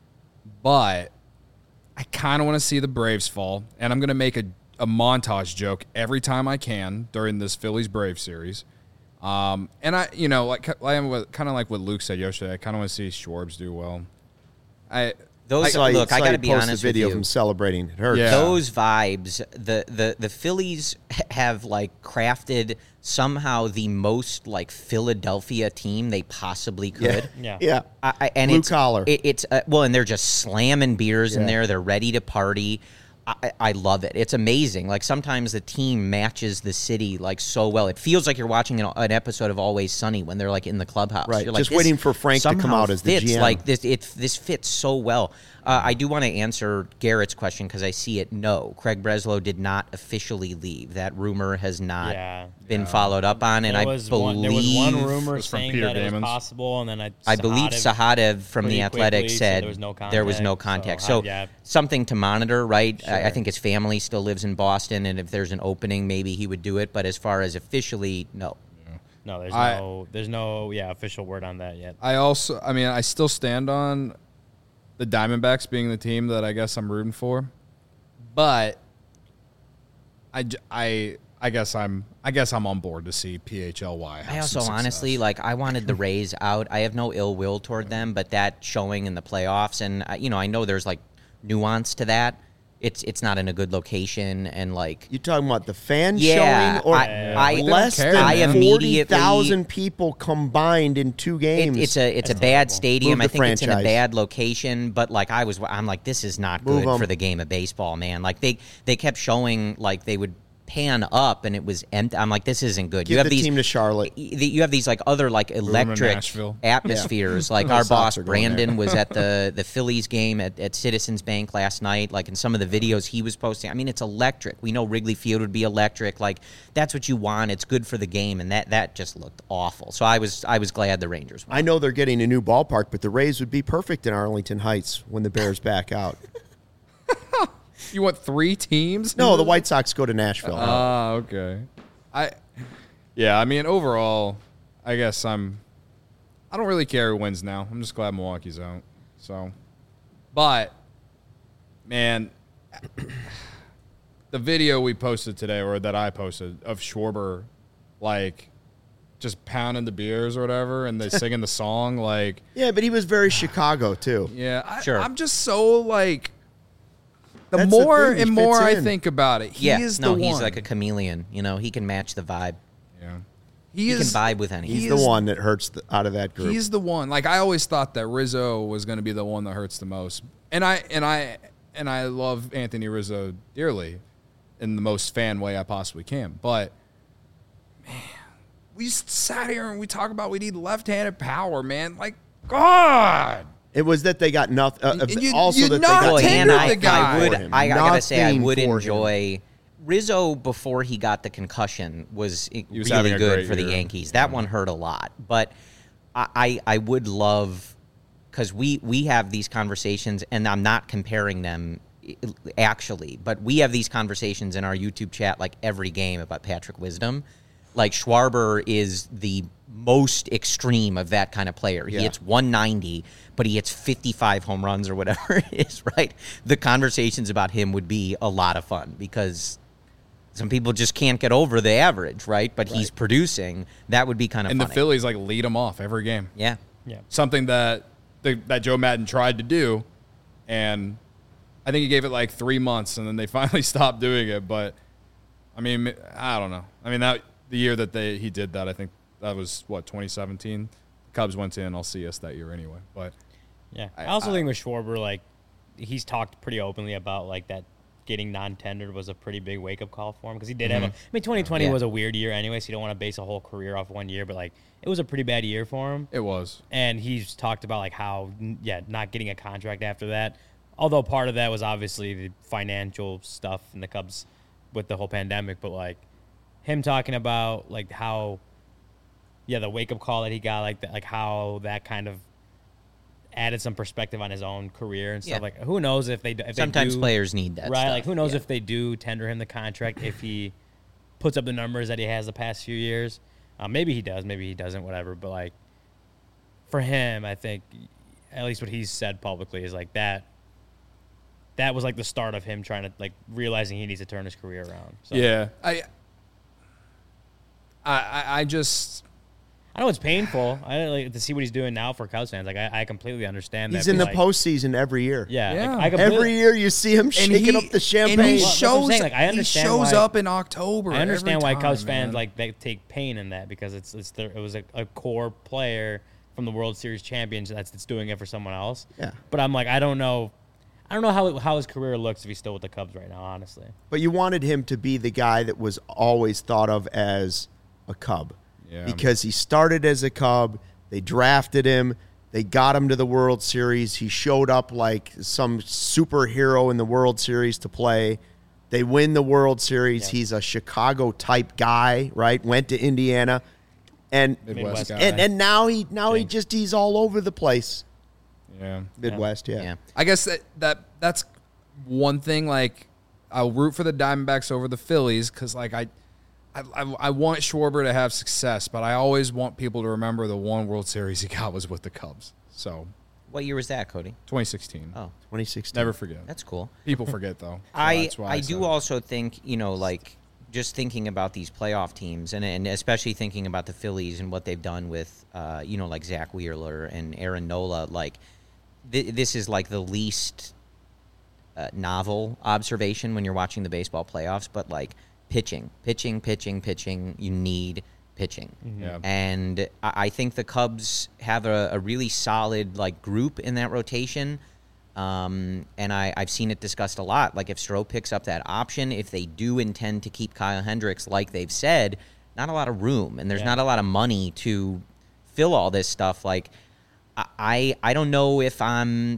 But I kind of want to see the Braves fall, and I'm going to make a montage joke every time I can during this Phillies-Braves series. And kind of like what Luke said yesterday, I kind of want to see Schwartz do well. I got to be honest a video with you. of him celebrating. It hurts. Yeah. Those vibes, the Phillies have crafted somehow the most Philadelphia team they possibly could. Yeah. And Blue it's collar. And they're just slamming beers in Yeah. there. They're ready to party. I love it. It's amazing. Sometimes the team matches the city so well. It feels like you're watching an episode of Always Sunny when they're in the clubhouse. Right. You're Just this waiting for Frank to come somehow out as the fits, GM. This fits so well. I do want to answer Garrett's question because I see it. No, Craig Breslow did not officially leave. That rumor has not been followed up on, and There I was believe one rumor was from saying Peter that it was Damons. possible, and then I believe Sahadev from pretty The Athletic quickly said said there was no contact. So, So something to monitor, right? I think his family still lives in Boston, and if there's an opening, maybe he would do it. But as far as officially, no. No, there's no official word on that yet. I still stand on the Diamondbacks being the team that I guess I'm rooting for, but I guess I'm on board to see PHLY. have I also some honestly success. I wanted the Rays out. I have no ill will toward them, but that showing in the playoffs, and I know there's nuance to that. It's not in a good location, and You talking about the fan Yeah, showing, or I- less care, than man. 40,000 people combined in 2 games? It's a bad stadium. Move I the think it's in a franchise. bad location, but I'm like, this is not Move good 'em. for the game of baseball, man. They kept showing they would pan up and it was empty. I'm like, this isn't good. Give You have the these team to Charlotte. You have these other electric Nashville. atmospheres. The Our Sox boss are going Brandon there. was at the Phillies game at Citizens Bank last night. In some of the videos he was posting, it's electric. We know Wrigley Field would be electric. That's what you want. It's good for the game, and that just looked awful. So I was glad the Rangers won. I know they're getting a new ballpark, but the Rays would be perfect in Arlington Heights when the Bears back out. You want 3 teams? No, the White Sox go to Nashville. Okay. Overall, I guess I don't really care who wins now. I'm just glad Milwaukee's out. So, but man, the video we posted today, or that I posted, of Schwarber, just pounding the beers or whatever, and they singing the song, Yeah, but he was very Chicago too. yeah. Sure. I'm just so the That's the more thing, he and more fits I in. think about it, he is the one. He's like a chameleon. He can match the vibe. Yeah. He can vibe with anything. He's the one that hurts out of that group. He's the one. Like, I always thought that Rizzo was going to be the one that hurts the most. And I love Anthony Rizzo dearly in the most fan way I possibly can. But, man, we sat here and we talk about we need left-handed power, man. Like, God. It was that they got nothing. Also, you that they not got tender and the guy. I gotta say, I Nothing would for him. enjoy Rizzo before he got the concussion was was having really a good great for the year. Yankees. That one hurt a lot, but I would love because we have these conversations, and I'm not comparing them actually, but we have these conversations in our YouTube chat like every game about Patrick Wisdom. Like Schwarber is the most extreme of that kind of player. He hits 190, but he hits 55 home runs or whatever it is, right? The conversations about him would be a lot of fun because some people just can't get over the average, right? But he's producing. That would be kind of And funny. the Phillies, like, lead him off every game. Yeah. Yeah. Something that Joe Madden tried to do, and I think he gave it like 3 months, and then they finally stopped doing it. But, I mean, I don't know. I mean, the year that he did that, I think that was, 2017? Cubs went to NLCS that year anyway. But Yeah. I also think with Schwarber, like, he's talked pretty openly about, like, that getting non-tendered was a pretty big wake-up call for him because he did have 2020 Yeah. was a weird year anyway, so you don't want to base a whole career off one year, but, like, it was a pretty bad year for him. it was. And he's talked about, like, how, not getting a contract after that. Although part of that was obviously the financial stuff in the Cubs with the whole pandemic, but, like, him talking about, like, how, the wake-up call that he got, like, that, like how that kind of added some perspective on his own career and stuff. Yeah. Like, who knows if Sometimes they do, players need that right? stuff. Like, who knows Yeah. if they do tender him the contract if he puts up the numbers that he has the past few years. Maybe he does, maybe he doesn't, whatever. But, like, for him, I think at least what he's said publicly is like that was like the start of him trying to, like, realizing he needs to turn his career around. So, Yeah. I just I know it's painful. I like to see what he's doing now for Cubs fans. Like, I completely understand that. He's in but, the like, postseason every year. Yeah, Yeah. Like, I completely, Every year you see him shaking up the champagne. And he Well, that's what I'm shows, saying, like, I understand he shows why- up in October. I understand every why Cubs time, fans man. like they take pain in that because it was a core player from the World Series champions that's doing it for someone else. Yeah. But I'm like, I don't know how his career looks if he's still with the Cubs right now, honestly. But you wanted him to be the guy that was always thought of as a Cub. Yeah. Because he started as a Cub. They drafted him. They got him to the World Series. He showed up like some superhero in the World Series to play. They win the World Series. Yeah. He's a Chicago-type guy, right? Went to Indiana. And Midwest guy. and now he's all over the place. Yeah. Midwest, yeah. Yeah. I guess that's one thing. Like, I'll root for the Diamondbacks over the Phillies because, like, I want Schwarber to have success, but I always want people to remember the one World Series he got was with the Cubs. So, What year was that, Cody? 2016. Oh, 2016. Never forget. that's cool. People forget, though. So I that's why I said do it. also think, like, just thinking about these playoff teams and especially thinking about the Phillies and what they've done with, like Zach Wheeler and Aaron Nola, like, this is like the least novel observation when you're watching the baseball playoffs, but, like, pitching. You need pitching. Yeah. And I think the Cubs have a really solid, like, group in that rotation. And I've seen it discussed a lot. Like, if Stroh picks up that option, if they do intend to keep Kyle Hendricks, like they've said, not a lot of room, and there's not a lot of money to fill all this stuff. Like, I don't know if I'm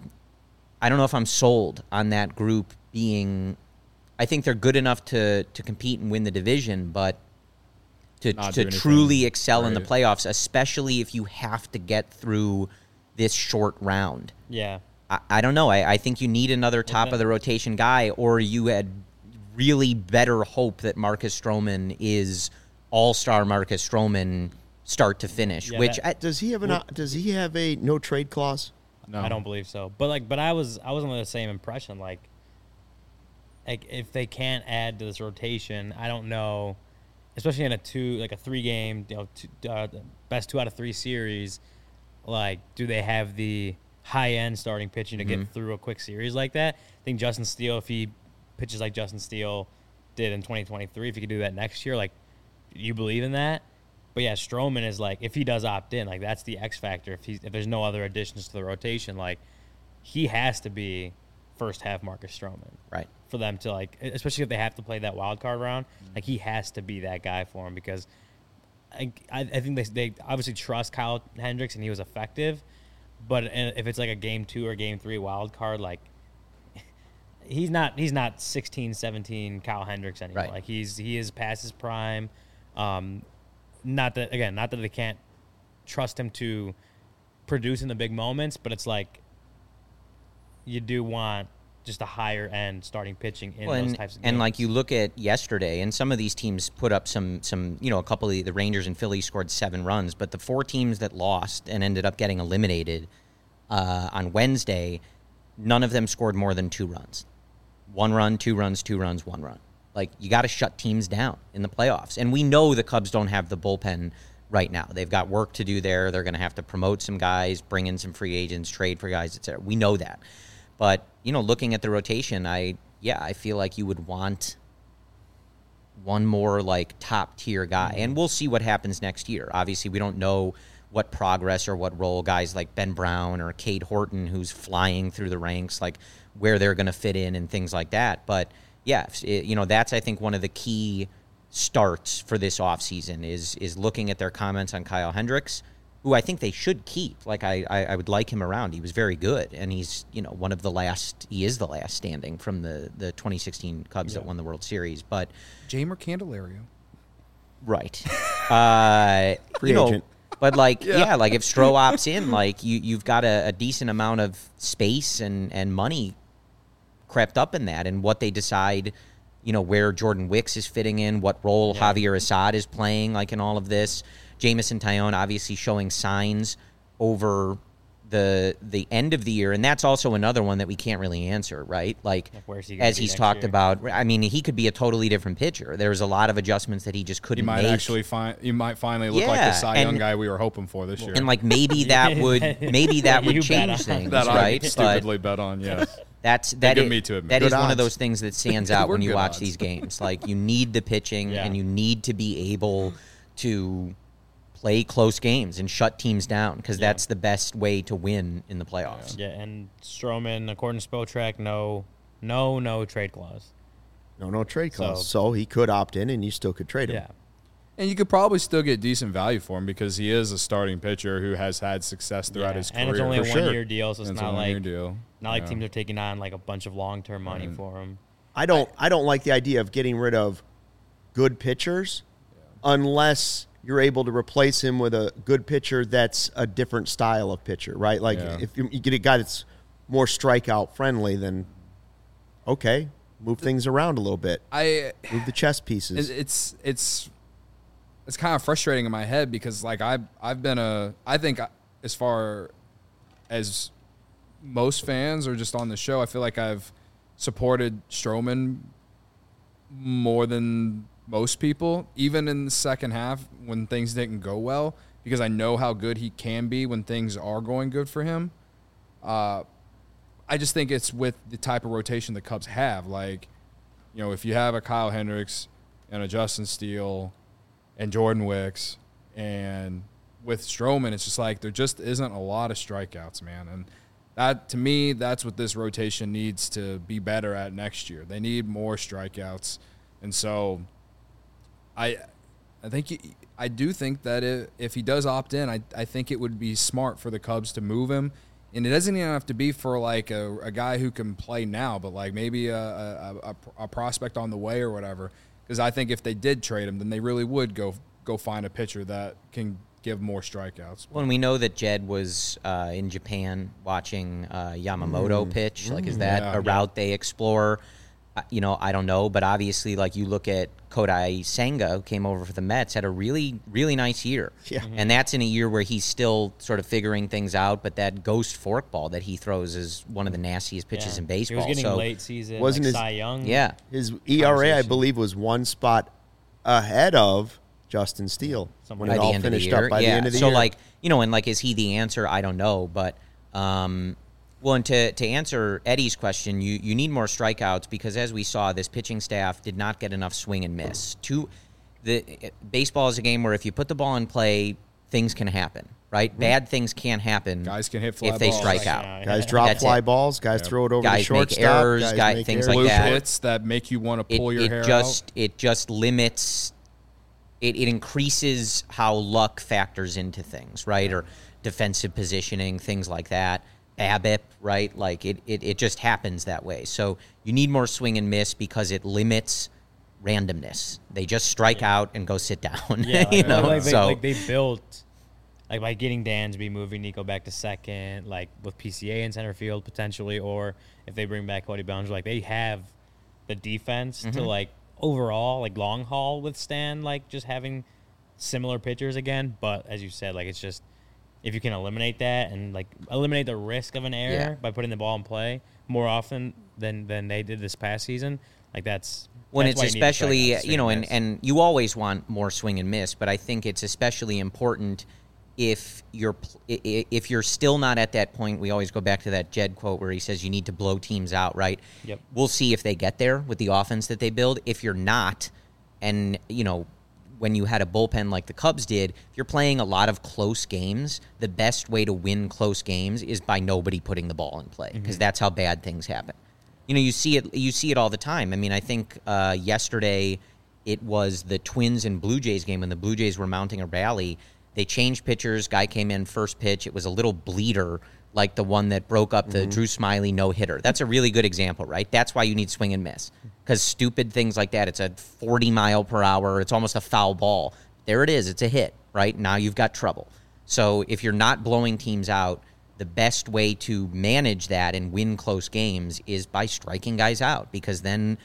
sold on that group being. I think they're good enough to compete and win the division, but to Not do anything. truly excel in the Right. playoffs, especially if you have to get through this short round. Yeah. I don't know. I think you need another top of the rotation guy, or you had really better hope that Marcus Stroman is all-star Marcus Stroman start to finish. Yeah, which Does he have a no trade clause? No. I don't believe so. But I was under the same impression. Like if they can't add to this rotation, I don't know, especially in a 3-game, best 2 out of 3 series. Like, do they have the high-end starting pitching to get through a quick series like that? I think Justin Steele, if he pitches like Justin Steele did in 2023, if he could do that next year, like, you believe in that? But yeah, Stroman is like, if he does opt in, like that's the X factor. If there's no other additions to the rotation, like he has to be first half Marcus Stroman, Right. for them to like, especially if they have to play that wild card round. Like he has to be that guy for him because I think they obviously trust Kyle Hendricks and he was effective, but if it's like a game 2 or game 3 wild card, like he's not 16, 17 Kyle Hendricks anymore. Right. Like he is past his prime. Not that they can't trust him to produce in the big moments, but it's like you do want just a higher end starting pitching in those types of games. And like you look at yesterday, and some of these teams put up some a couple of the Rangers and Phillies scored 7 runs, but the 4 teams that lost and ended up getting eliminated on Wednesday, none of them scored more than 2 runs. 1 run, 2 runs, 2 runs, 1 run. Like, you got to shut teams down in the playoffs. And we know the Cubs don't have the bullpen right now. They've got work to do there. They're going to have to promote some guys, bring in some free agents, trade for guys, etc. We know that. But, looking at the rotation, I feel like you would want one more, like, top-tier guy. And we'll see what happens next year. Obviously, we don't know what progress or what role guys like Ben Brown or Cade Horton, who's flying through the ranks, like, where they're going to fit in and things like that. But yeah, that's, I think, one of the key starts for this offseason is looking at their comments on Kyle Hendricks, who I think they should keep. Like, I would like him around. He was very good, and he's, one of the last – he is the last standing from the 2016 Cubs that won the World Series. But Jamer Candelario. Right. Free agent. But, like, like if Stroh opts in, like, you've got a decent amount of space and money crept up in that, and what they decide, where Jordan Wicks is fitting in, what role Javier Assad is playing, like, in all of this. Jamison Tyone obviously showing signs over the end of the year, and that's also another one that we can't really answer, right? Like where's he gonna as be he's next talked year? about, I mean, he could be a totally different pitcher. There's a lot of adjustments that he just couldn't You might make. actually you might finally look like the Cy Young guy we were hoping for this year. And like maybe that would You bet change on. things, that right? I stupidly bet on, yes. That good is, me to admit. that is Good one of odds. those things that stands out We're when you good watch odds. these games. Like, you need the pitching Yeah. and you need to be able to play close games and shut teams down because that's the best way to win in the playoffs. Yeah, and Stroman, according to Spotrac, no trade clause. No trade clause. So he could opt in, and you still could trade him. Yeah. And you could probably still get decent value for him because he is a starting pitcher who has had success throughout his career. And it's only a For sure. 1-year deal, so it's And not a one-year like deal. teams are taking on like a bunch of long-term money for him. I don't like the idea of getting rid of good pitchers unless you're able to replace him with a good pitcher that's a different style of pitcher, right? Like if you get a guy that's more strikeout friendly, then okay, move things around a little bit. Move the chess pieces. It's kind of frustrating in my head because like I think as far as most fans or just on the show, I feel like I've supported Stroman more than most people, even in the second half when things didn't go well, because I know how good he can be when things are going good for him. I just think it's with the type of rotation the Cubs have. Like, if you have a Kyle Hendricks and a Justin Steele and Jordan Wicks, and with Stroman, it's just like there just isn't a lot of strikeouts, man. And that, to me, that's what this rotation needs to be better at next year. They need more strikeouts. And so I do think that if he does opt in, I think it would be smart for the Cubs to move him. And it doesn't even have to be for like a guy who can play now, but like maybe a prospect on the way or whatever. Because I think if they did trade him, then they really would go find a pitcher that can give more strikeouts. Well, and we know that Jed was in Japan watching Yamamoto pitch. Like, is that a route they explore? I don't know, but obviously, like, you look at Kodai Senga, who came over for the Mets, had a really, really nice year. Yeah. And that's in a year where he's still sort of figuring things out, but that ghost forkball that he throws is one of the nastiest pitches in baseball. He was getting so, late season, Wasn't like his- Cy Young. yeah. His ERA, I Conversation. believe, was one spot ahead of Justin Steele when by it the all end of the finished year. up by the end of the so year. like, and like, is he the answer? I don't know, but well, and to answer Eddie's question, you need more strikeouts because as we saw, this pitching staff did not get enough swing and miss. baseball is a game where if you put the ball in play, things can happen, right? Bad things can happen. Guys can hit fly if they balls. strike Yeah. out. Guys drop That's fly it. balls. Guys throw it over the Guys shortstop. make errors. Make Things errors. like Blue that. hits that make you want to pull your hair out. It just limits. It increases how luck factors into things, right? Or defensive positioning, things like that. BABIP, right? Like it just happens that way. So you need more swing and miss because it limits randomness. They just strike out and go sit down. Yeah, you know? like they built, like by getting Dansby, moving Nico back to second, like with PCA in center field potentially, or if they bring back Cody Bellinger, like they have the defense to like overall, like long haul withstand like just having similar pitchers again. But as you said, like it's just if you can eliminate that and like eliminate the risk of an error by putting the ball in play more often than they did this past season, like that's when that's it's why you need to especially, strike out, swing and miss. and you always want more swing and miss, but I think it's especially important if you're still not at that point. We always go back to that Jed quote where he says you need to blow teams out, right? Yep. We'll see if they get there with the offense that they build. If you're not, and when you had a bullpen like the Cubs did, if you're playing a lot of close games, the best way to win close games is by nobody putting the ball in play, because that's how bad things happen. You see it all the time. I mean, I think yesterday it was the Twins and Blue Jays game when the Blue Jays were mounting a rally. They changed pitchers. Guy came in first pitch. It was a little bleeder, like the one that broke up the Drew Smyly no-hitter. That's a really good example, right? That's why you need swing and miss, because stupid things like that, it's a 40-mile-per-hour, it's almost a foul ball. There it is. It's a hit, right? Now you've got trouble. So if you're not blowing teams out, the best way to manage that and win close games is by striking guys out, because then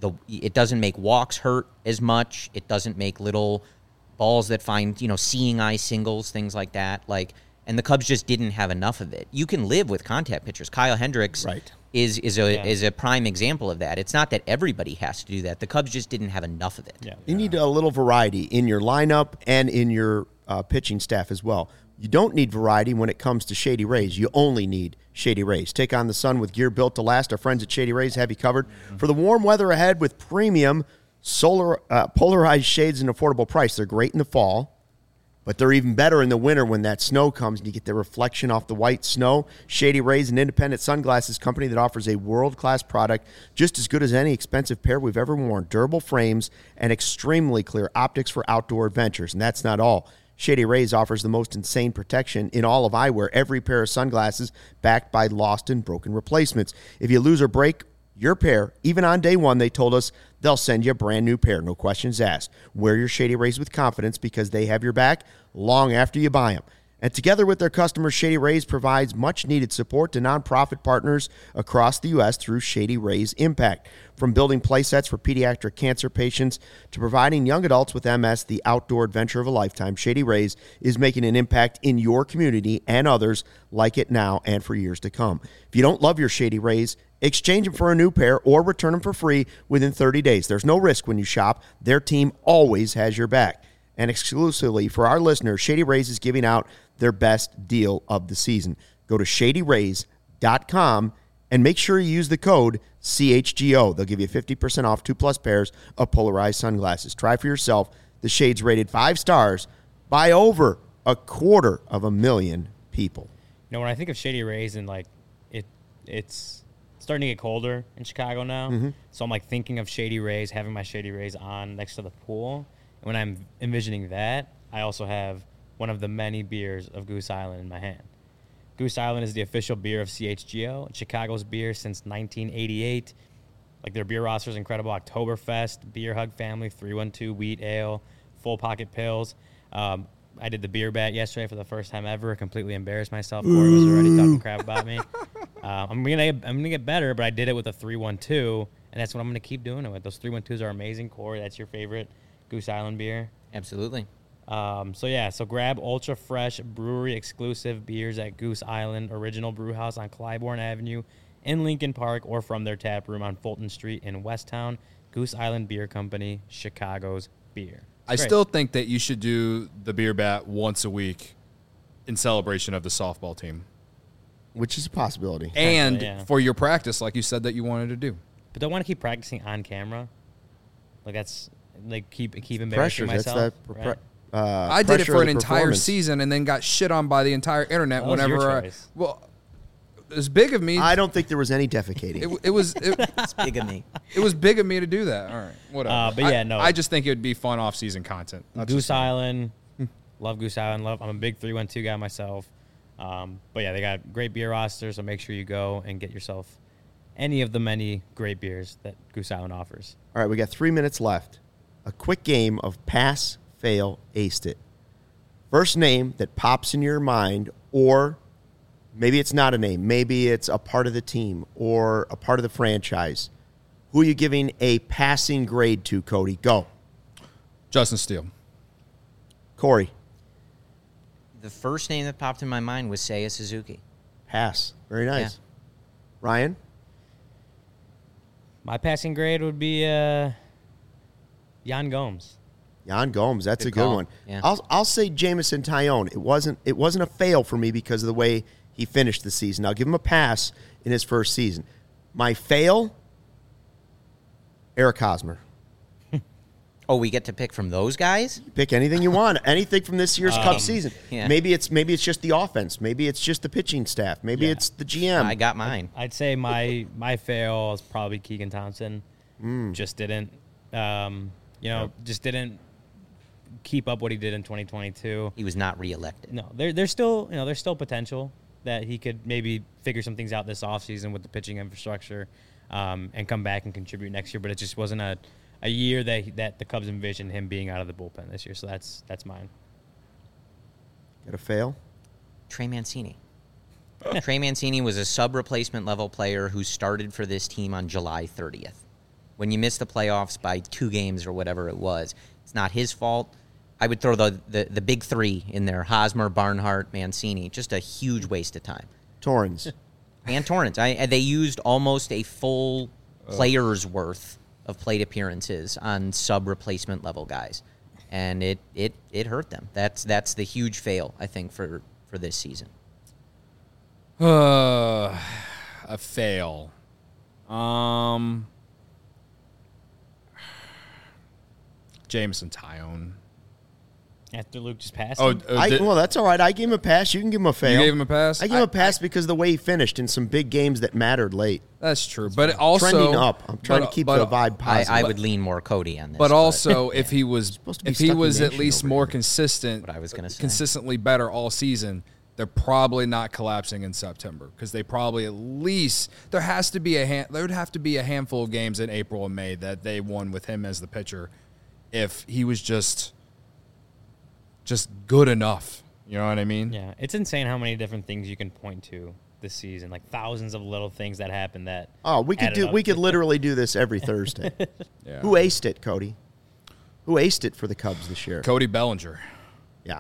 it doesn't make walks hurt as much. It doesn't make little balls that find, seeing eye singles, things like that. And the Cubs just didn't have enough of it. You can live with contact pitchers. Kyle Hendricks is a prime example of that. It's not that everybody has to do that. The Cubs just didn't have enough of it. Yeah. You need a little variety in your lineup and in your pitching staff as well. You don't need variety when it comes to Shady Rays. You only need Shady Rays. Take on the sun with gear built to last. Our friends at Shady Rays have you covered for the warm weather ahead with premium solar polarized shades and affordable price. They're great in the fall, but they're even better in the winter when that snow comes and you get the reflection off the white snow. Shady Rays, an independent sunglasses company that offers a world-class product just as good as any expensive pair we've ever worn. Durable frames and extremely clear optics for outdoor adventures. And that's not all. Shady Rays offers the most insane protection in all of eyewear. Every pair of sunglasses backed by lost and broken replacements. If you lose or break your pair, even on day one, they told us they'll send you a brand new pair. No questions asked. Wear your Shady Rays with confidence because they have your back long after you buy them. And together with their customers, Shady Rays provides much-needed support to nonprofit partners across the U.S. through Shady Rays Impact. From building play sets for pediatric cancer patients to providing young adults with MS the outdoor adventure of a lifetime, Shady Rays is making an impact in your community and others like it now and for years to come. If you don't love your Shady Rays, exchange them for a new pair or return them for free within 30 days. There's no risk when you shop. Their team always has your back. And exclusively for our listeners, Shady Rays is giving out their best deal of the season. Go to shadyrays.com and make sure you use the code CHGO. They'll give you 50% off 2+ pairs of polarized sunglasses. Try for yourself. The shades rated 5 stars by over 250,000 people. When I think of Shady Rays and it's starting to get colder in Chicago now, so I'm thinking of Shady Rays, having my Shady Rays on next to the pool. And when I'm envisioning that, I also have one of the many beers of Goose Island in my hand. Goose Island is the official beer of CHGO, Chicago's beer since 1988. Their beer roster is incredible. Oktoberfest, Beer Hug Family, 312 Wheat Ale, Full Pocket Pills. I did the beer bat yesterday for the first time ever. Completely embarrassed myself. Corey was already talking crap about me. I'm gonna get better, but I did it with a 312, and that's what I'm gonna keep doing it with. Those 312s are amazing. Corey, that's your favorite Goose Island beer? Absolutely. So grab ultra fresh brewery exclusive beers at Goose Island Original Brew House on Clybourne Avenue in Lincoln Park, or from their tap room on Fulton Street in Westtown. Goose Island Beer Company, Chicago's beer. I still think that you should do the beer bat once a week in celebration of the softball team. Which is a possibility. And for your practice, like you said that you wanted to do. But don't want to keep practicing on camera. like keep embarrassing Pressure. That's myself. that. Right? I did it Pressure for of an the entire performance. season and then got shit on by the entire internet That was your whenever choice. well, it was big of me. I don't think there was any defecating. It was It's big of me. it was big of me to do that. All right, whatever. But yeah, no. I just think it would be fun off-season content. That's Goose just me. Island, love Goose Island. I'm a big 312 guy myself. But yeah, they got great beer roster, so make sure you go and get yourself any of the many great beers that Goose Island offers. All right, we got 3 minutes left. A quick game of pass, fail, aced it. First name that pops in your mind, or maybe it's not a name. Maybe it's a part of the team or a part of the franchise. Who are you giving a passing grade to, Cody? Go. Justin Steele. Corey. The first name that popped in my mind was Seiya Suzuki. Pass. Very nice. Ryan? My passing grade would be Jan Gomes. Jan Gomes. That's Good a good call. one. Yeah. I'll say Jamison Tyone. It wasn't a fail for me because of the way he finished the season. I'll give him a pass in his first season. My fail, Eric Hosmer. Oh, we get to pick from those guys? Pick anything you want. Anything from this year's Cubs season. yeah. Maybe it's just the offense. Maybe it's just the pitching staff. Maybe Yeah. it's the GM. I got mine. I'd say my fail is probably Keegan Thompson. Just didn't, just didn't keep up what he did in 2022. He was not reelected. No, there's still potential that he could maybe figure some things out this offseason with the pitching infrastructure, and come back and contribute next year. But it just wasn't a year that the Cubs envisioned him being out of the bullpen this year. So that's mine. Got a fail? Trey Mancini. Trey Mancini was a sub-replacement level player who started for this team on July 30th. When you miss the playoffs by 2 games or whatever it was, it's not his fault. I would throw the big 3 in there: Hosmer, Barnhart, Mancini. Just a huge waste of time. Torrens. And Torrance. They used almost a full player's worth of plate appearances on sub-replacement level guys, and it hurt them. That's the huge fail, I think, for this season. A fail. Jameson Tyone. After Luke just passed Oh, him? Well, that's all right. I gave him a pass. You can give him a fail. you gave him a pass? I gave him a pass because of the way he finished in some big games that mattered late. That's true, but it also Trending up. I'm trying to but- keep but- the vibe positive. I would lean more Cody on this. But also, if he was supposed to be if he Stucky was at Nation least over more here. consistent, What I was gonna say. consistently better all season, they're probably not collapsing in September because they probably at least there would have to be a handful of games in April and May that they won with him as the pitcher. If he was just good enough, you know what I mean? Yeah, it's insane how many different things you can point to this season, like thousands of little things that happened that. Oh, we added up could to- literally do this every Thursday. Yeah. Who aced it, Cody? Who aced it for the Cubs this year? Cody Bellinger. Yeah.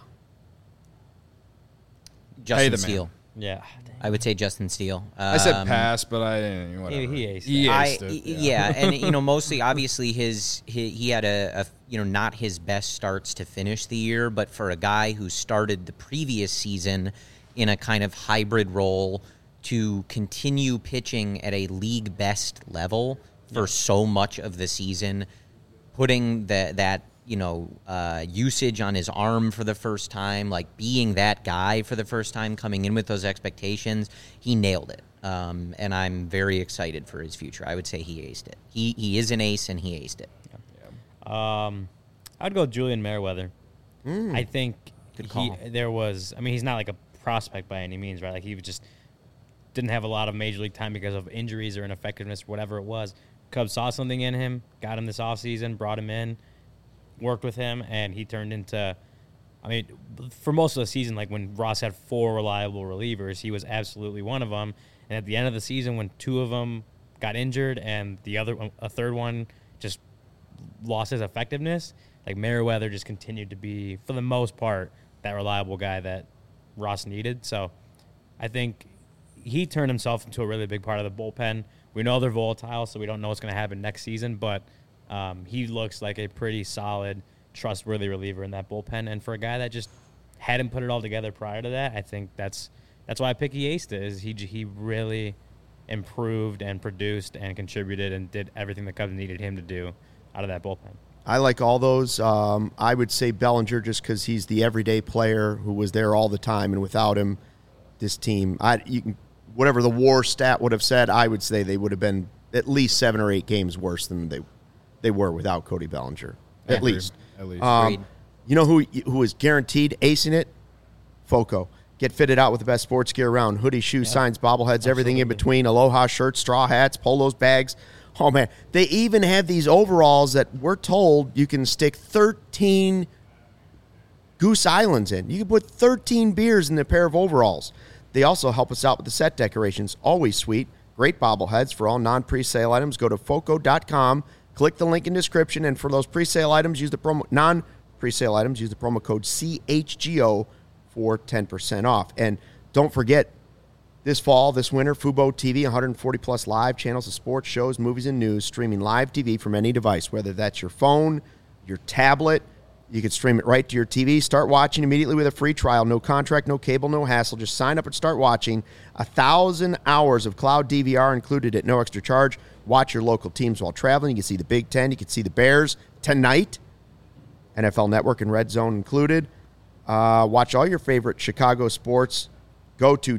Justin the man. Steele. Yeah, I would say Justin Steele. I said pass, but I didn't. Whatever. He aced He it. aced it. Yeah, and mostly obviously he had a not his best starts to finish the year, but for a guy who started the previous season in a kind of hybrid role to continue pitching at a league best level for so much of the season, putting that usage on his arm for the first time, like being that guy for the first time, coming in with those expectations, he nailed it. And I'm very excited for his future. I would say he aced it. He is an ace, and he aced it. I'd go Julian Merriweather. I think Good call. he's not like a prospect by any means, right? Like he just didn't have a lot of major league time because of injuries or ineffectiveness, whatever it was. Cubs saw something in him, got him this offseason, brought him in, worked with him, and he turned into, for most of the season, like when Ross had 4 reliable relievers, he was absolutely one of them. And at the end of the season, when 2 of them got injured and a third one just lost his effectiveness, like Merriweather just continued to be, for the most part, that reliable guy that Ross needed. So I think he turned himself into a really big part of the bullpen. We know they're volatile, so we don't know what's going to happen next season, but he looks like a pretty solid, trustworthy reliever in that bullpen. And for a guy that just hadn't put it all together prior to that, I think that's why I pick he aced it, is he really improved and produced and contributed and did everything the Cubs needed him to do out of that bullpen. I like all those. I would say Bellinger just because he's the everyday player who was there all the time, and without him, this team, whatever the WAR stat would have said, I would say they would have been at least 7 or 8 games worse than they were without Cody Bellinger. At least. Agreed. You know who is guaranteed acing it? FOCO. Get fitted out with the best sports gear around. Hoodies, shoes, signs, bobbleheads, everything in between. Aloha shirts, straw hats, polos, bags. Oh, man. They even have these overalls that we're told you can stick 13 Goose Islands in. You can put 13 beers in a pair of overalls. They also help us out with the set decorations. Always sweet. Great bobbleheads for all non-presale items. Go to foco.com. Click the link in description. And for those presale items, use the non-presale items, use the promo code CHGO for 10% off. And don't forget, this fall, this winter, Fubo TV, 140-plus live channels of sports, shows, movies, and news, streaming live TV from any device, whether that's your phone, your tablet. You can stream it right to your TV. Start watching immediately with a free trial. No contract, no cable, no hassle. Just sign up and start watching. 1,000 hours of cloud DVR included at no extra charge. Watch your local teams while traveling. You can see the Big Ten. You can see the Bears tonight. NFL Network and Red Zone included. Watch all your favorite Chicago sports. Go to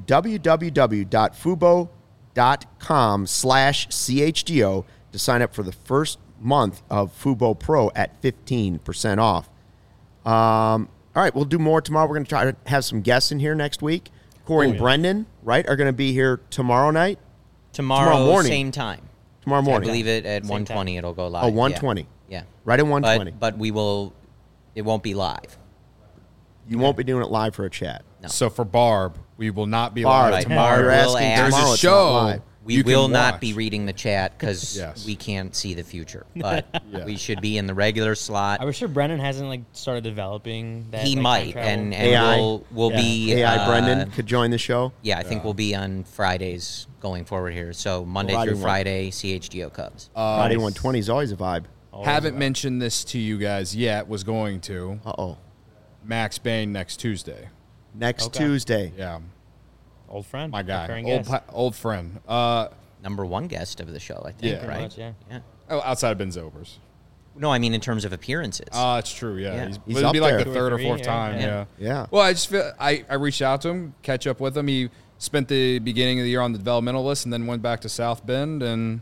www.fubo.com/CHGO to sign up for the first month of Fubo Pro at 15% off. All right, we'll do more tomorrow. We're going to try to have some guests in here next week. Corey and Brendan, right, are going to be here tomorrow night? Tomorrow morning. Same time. Tomorrow morning. I believe it at 1:20 it'll go live. Oh, 1:20. Yeah. Right at 1:20. But it won't be live. You won't be doing it live for a chat. No. So for Barb, we will not be Barb, live tomorrow. You're We'll asking ask- tomorrow. There's a it's not show. live. We you can will not watch. be reading the chat because Yes. we can't see the future. But Yeah. we should be in the regular slot. I was sure Brennan hasn't started developing that. He time might, travel. and AI. we'll Yeah. be AI Brendan could join the show. Yeah, I think we'll be on Fridays going forward here. So Monday Friday through one. Friday, CHGO Cubs. Friday 1:20 is always a vibe. Haven't mentioned this to you guys yet. Was going to. Uh-oh. Max Bain next Tuesday. Next Okay. Tuesday. Yeah, Old friend, my guy, recurring old guest. old friend. Number one guest of the show, I think, Yeah. right? Much, yeah. Oh, outside of Ben Zobers. No, I mean in terms of appearances. It's true. Yeah, Yeah. He's it'd be up like there. the 2 or third or 3, fourth yeah. time. Yeah. Yeah. Yeah. Well, I just feel I reached out to him, catch up with him. He spent the beginning of the year on the developmental list, and then went back to South Bend. And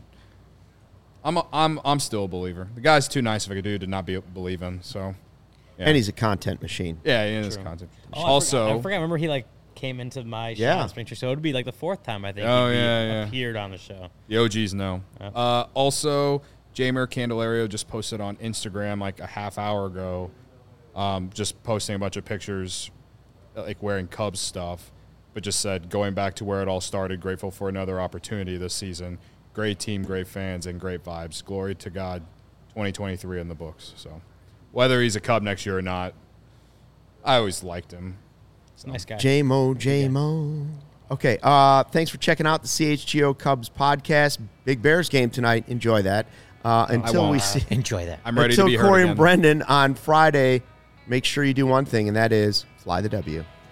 I'm still a believer. The guy's too nice of a dude to not be believing. So, yeah. And he's a content machine. yeah, he is content. Oh, Also, I forgot. Remember he came into my show Yeah. on Spring Training, so it would be like the 4th time I think Oh, he yeah. appeared on the show. the OGs know. Yeah. Also, Jamer Candelario just posted on Instagram like a half hour ago, just posting a bunch of pictures, like wearing Cubs stuff, but just said, going back to where it all started, grateful for another opportunity this season. Great team, great fans, and great vibes. Glory to God, 2023 in the books. So whether he's a Cub next year or not, I always liked him. Nice guy. J-Mo. Okay, thanks for checking out the CHGO Cubs podcast. Big Bears game tonight. Enjoy that. Until won't. we see Enjoy that. I'm ready until to be heard Corey again. and Brendan on Friday, make sure you do one thing, and that is fly the W.